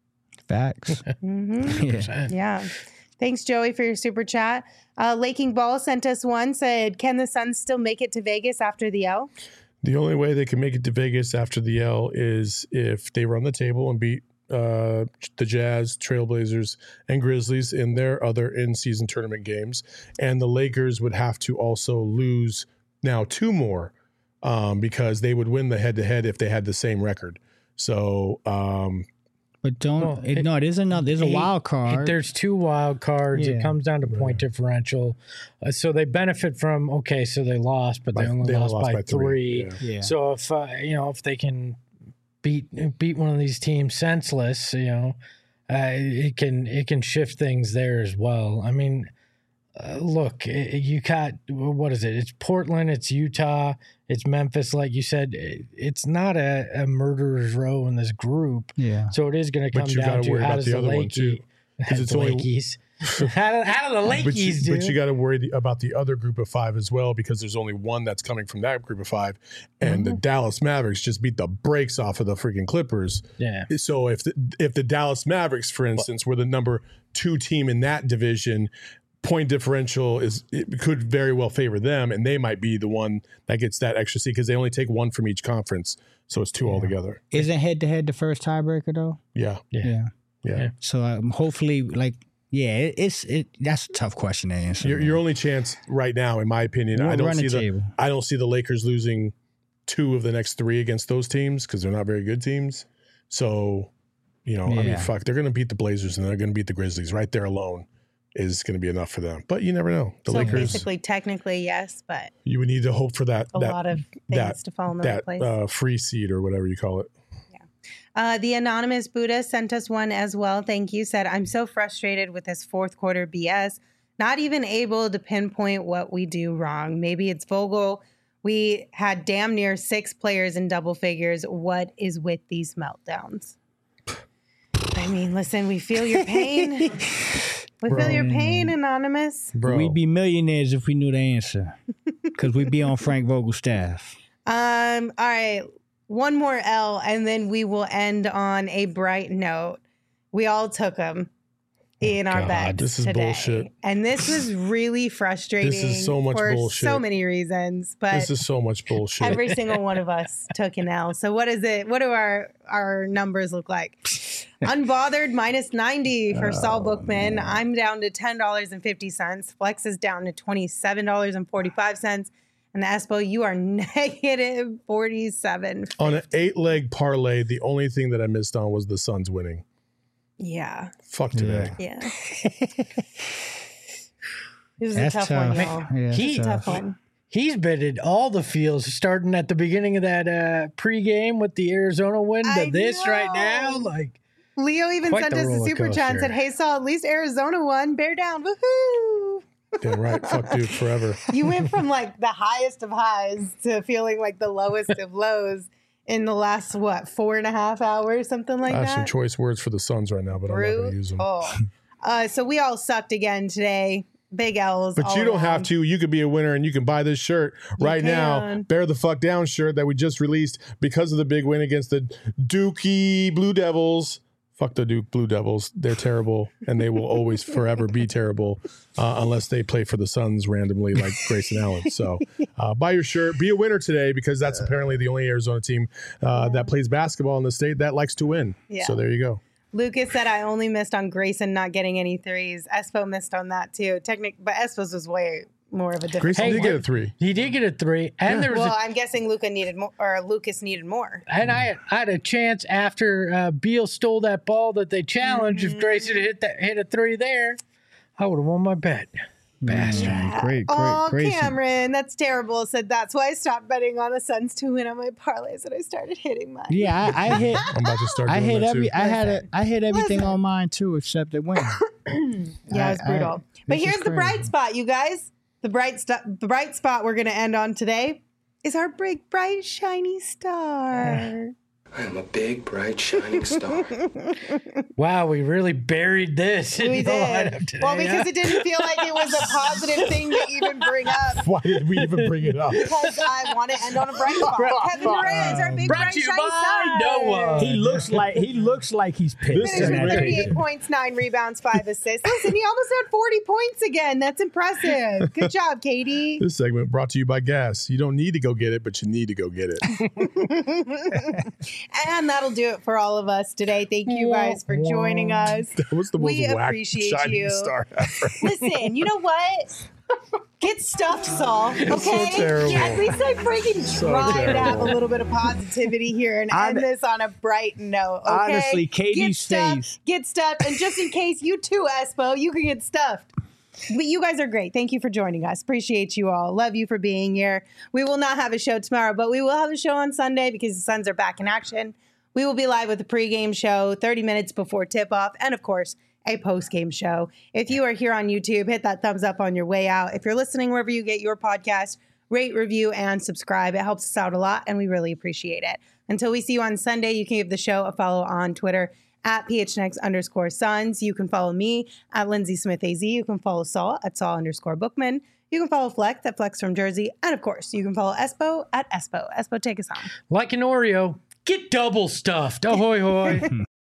Facts. Mm-hmm. Yeah. Yeah. Thanks, Joey, for your super chat. Uh, Laking Ball sent us one, said, can the Suns still make it to Vegas after the L? The only way they can make it to Vegas after the L is if they run the table and beat Uh, the Jazz, Trailblazers, and Grizzlies in their other in-season tournament games. And the Lakers would have to also lose now two more um, because they would win the head-to-head if they had the same record. So, um, but don't well, it, it, no, there's another. There's a eight, wild card. There's two wild cards. Yeah. It comes down to point yeah. differential. Uh, so they benefit from okay. So they lost, but they by, only they lost, lost by, by three. three. Yeah. Yeah. So if uh, you know if they can beat beat one of these teams senseless, you know, uh, it can it can shift things there as well. I mean, uh, look, it, you got what is it? It's Portland, it's Utah, it's Memphis. Like you said, it, it's not a, a murderer's row in this group. Yeah. So it is going to come But you down gotta to worry how about does the the other one, too, Lakey, 'cause it's the only- Lakeys. how, do, how do the Lakeys but you, do? but you got to worry the, about the other group of five as well because there's only one that's coming from that group of five. And Mm-hmm. the Dallas Mavericks just beat the brakes off of the freaking Clippers. yeah. So if the, if the Dallas Mavericks, for instance, were the number two team in that division, point differential is it could very well favor them, and they might be the one that gets that extra seed because they only take one from each conference, so it's two Yeah. altogether. Isn't head to head the first tiebreaker though? Yeah, Yeah. Yeah. yeah. Yeah. So um, hopefully, like, yeah, it, it's it. That's a tough question to answer. Your, man. your only chance right now, in my opinion, We'll I don't run see the the table. I don't see the Lakers losing two of the next three against those teams because they're not very good teams. So, you know, I mean, Yeah. fuck, they're going to beat the Blazers and they're going to beat the Grizzlies. Right there alone is going to be enough for them. But you never know. The so Lakers, basically, technically, yes, but you would need to hope for that a that lot of things that to fall in the right that place. uh, free seed or whatever you call it. Uh, the anonymous Buddha sent us one as well. Thank you. Said, I'm so frustrated with this fourth quarter B S. Not even able to pinpoint what we do wrong. Maybe it's Vogel. We had damn near six players in double figures. What is with these meltdowns? I mean, listen, we feel your pain. We Bro. feel your pain, Anonymous. Bro, We'd be millionaires if we knew the answer, because we'd be on Frank Vogel's staff. Um, all right. One more L, and then we will end on a bright note. We all took them in our God, beds this is today. bullshit. And this was really frustrating. This is so much for bullshit. so many reasons, but this is so much bullshit. every single one of us took an L. So what is it? What do our our numbers look like? Unbothered minus ninety for Saul Bookman. I'm down to ten dollars and fifty cents. Flex is down to twenty-seven dollars and forty-five cents. And Espo, you are negative forty-seven. On an eight-leg parlay, the only thing that I missed on was the Suns winning. Yeah. Fuck today. Yeah. This is That's a tough, tough. one, y'all. Yeah, He- It's a tough. tough one. He's betted all the fields starting at the beginning of that uh, pregame with the Arizona win to I this right now. know. Like, Leo even Quite sent the us a roller super chat and coaster. said, hey, Saul, at least Arizona won. Bear down. Woohoo. Damn right. Fuck dude forever. You went from like the highest of highs to feeling like the lowest of lows in the last, what, four and a half hours, something like I have some that? choice words for the Suns right now, but I'm not going to use them. Brutal. Uh, so we all sucked again today. Big L's. But all you don't have around. to. You could be a winner and you can buy this shirt You right now. can. Bear the fuck down shirt that we just released because of the big win against the Dookie Blue Devils. fuck the Duke Blue Devils. They're terrible, and they will always forever be terrible uh, unless they play for the Suns randomly like Grayson Allen. So uh, buy your shirt. Be a winner today because that's yeah. apparently the only Arizona team uh, yeah. that plays basketball in the state that likes to win. Yeah. So there you go. Lucas said I only missed on Grayson not getting any threes. Espo missed on that too. Technic, but Espo's was way more of a difference. Grayson hey, did get a three. He did get a three, and yeah. there was. Well, i I'm guessing Luca needed more, or Lucas needed more. And I, I had a chance after uh, Beal stole that ball that they challenged. Mm-hmm. If Grayson hit that hit a three there, I would have won my bet. Bastard. Yeah. Great, great, oh, Grayson. Cameron, that's terrible. Said that's why I stopped betting on the Suns to win on my parlays and I started hitting mine. Yeah, I, I hit. I'm about to start. I doing hit that every. Too. I had a. I hit everything Listen. on mine too, except the win. Yeah, it's brutal. I, but here's the bright spot, you guys. The bright stuff. The bright spot we're going to end on today is our big, bright, shiny star. I am a big, bright, shining star. Wow, we really buried this. We did. Today, well, because huh? it didn't feel like it was a positive thing to even bring up. Why did we even bring it up? Because I want to end on a bright spot. Kevin Durant is our big, Brought bright, you shiny by star. Noah. He looks like he looks like he's pissed. Finished with thirty-eight points, nine rebounds, five assists. Listen, he almost had forty points again. That's impressive. Good job, Katie. This segment brought to you by Gas. You don't need to go get it, but you need to go get it. And that'll do it for all of us today. Thank you guys for joining us. That was the most we whack appreciate shining you. star ever. Listen, you know what? Get stuffed, Saul. Okay? So terrible. Yeah, at least I freaking So tried terrible. to have a little bit of positivity here and Hon- end this on a bright note. Okay? Honestly, Katie get stays. Stuffed, get stuffed, and just in case you too, Espo, you can get stuffed. But you guys are great. Thank you for joining us. Appreciate you all. Love you for being here. We will not have a show tomorrow, but we will have a show on Sunday because the Suns are back in action. We will be live with a pregame show thirty minutes before tip-off and, of course, a post-game show. If you are here on YouTube, hit that thumbs up on your way out. If you're listening wherever you get your podcast, rate, review, and subscribe. It helps us out a lot, and we really appreciate it. Until we see you on Sunday, you can give the show a follow on Twitter at PHNX underscore Suns. You can follow me at Lindsay Smith A Z. You can follow Saul at Saul underscore Bookman. You can follow Flex at Flex from Jersey. And, of course, you can follow Espo at Espo. Espo, take us on. Like an Oreo, get double stuffed. Ahoy, hoy.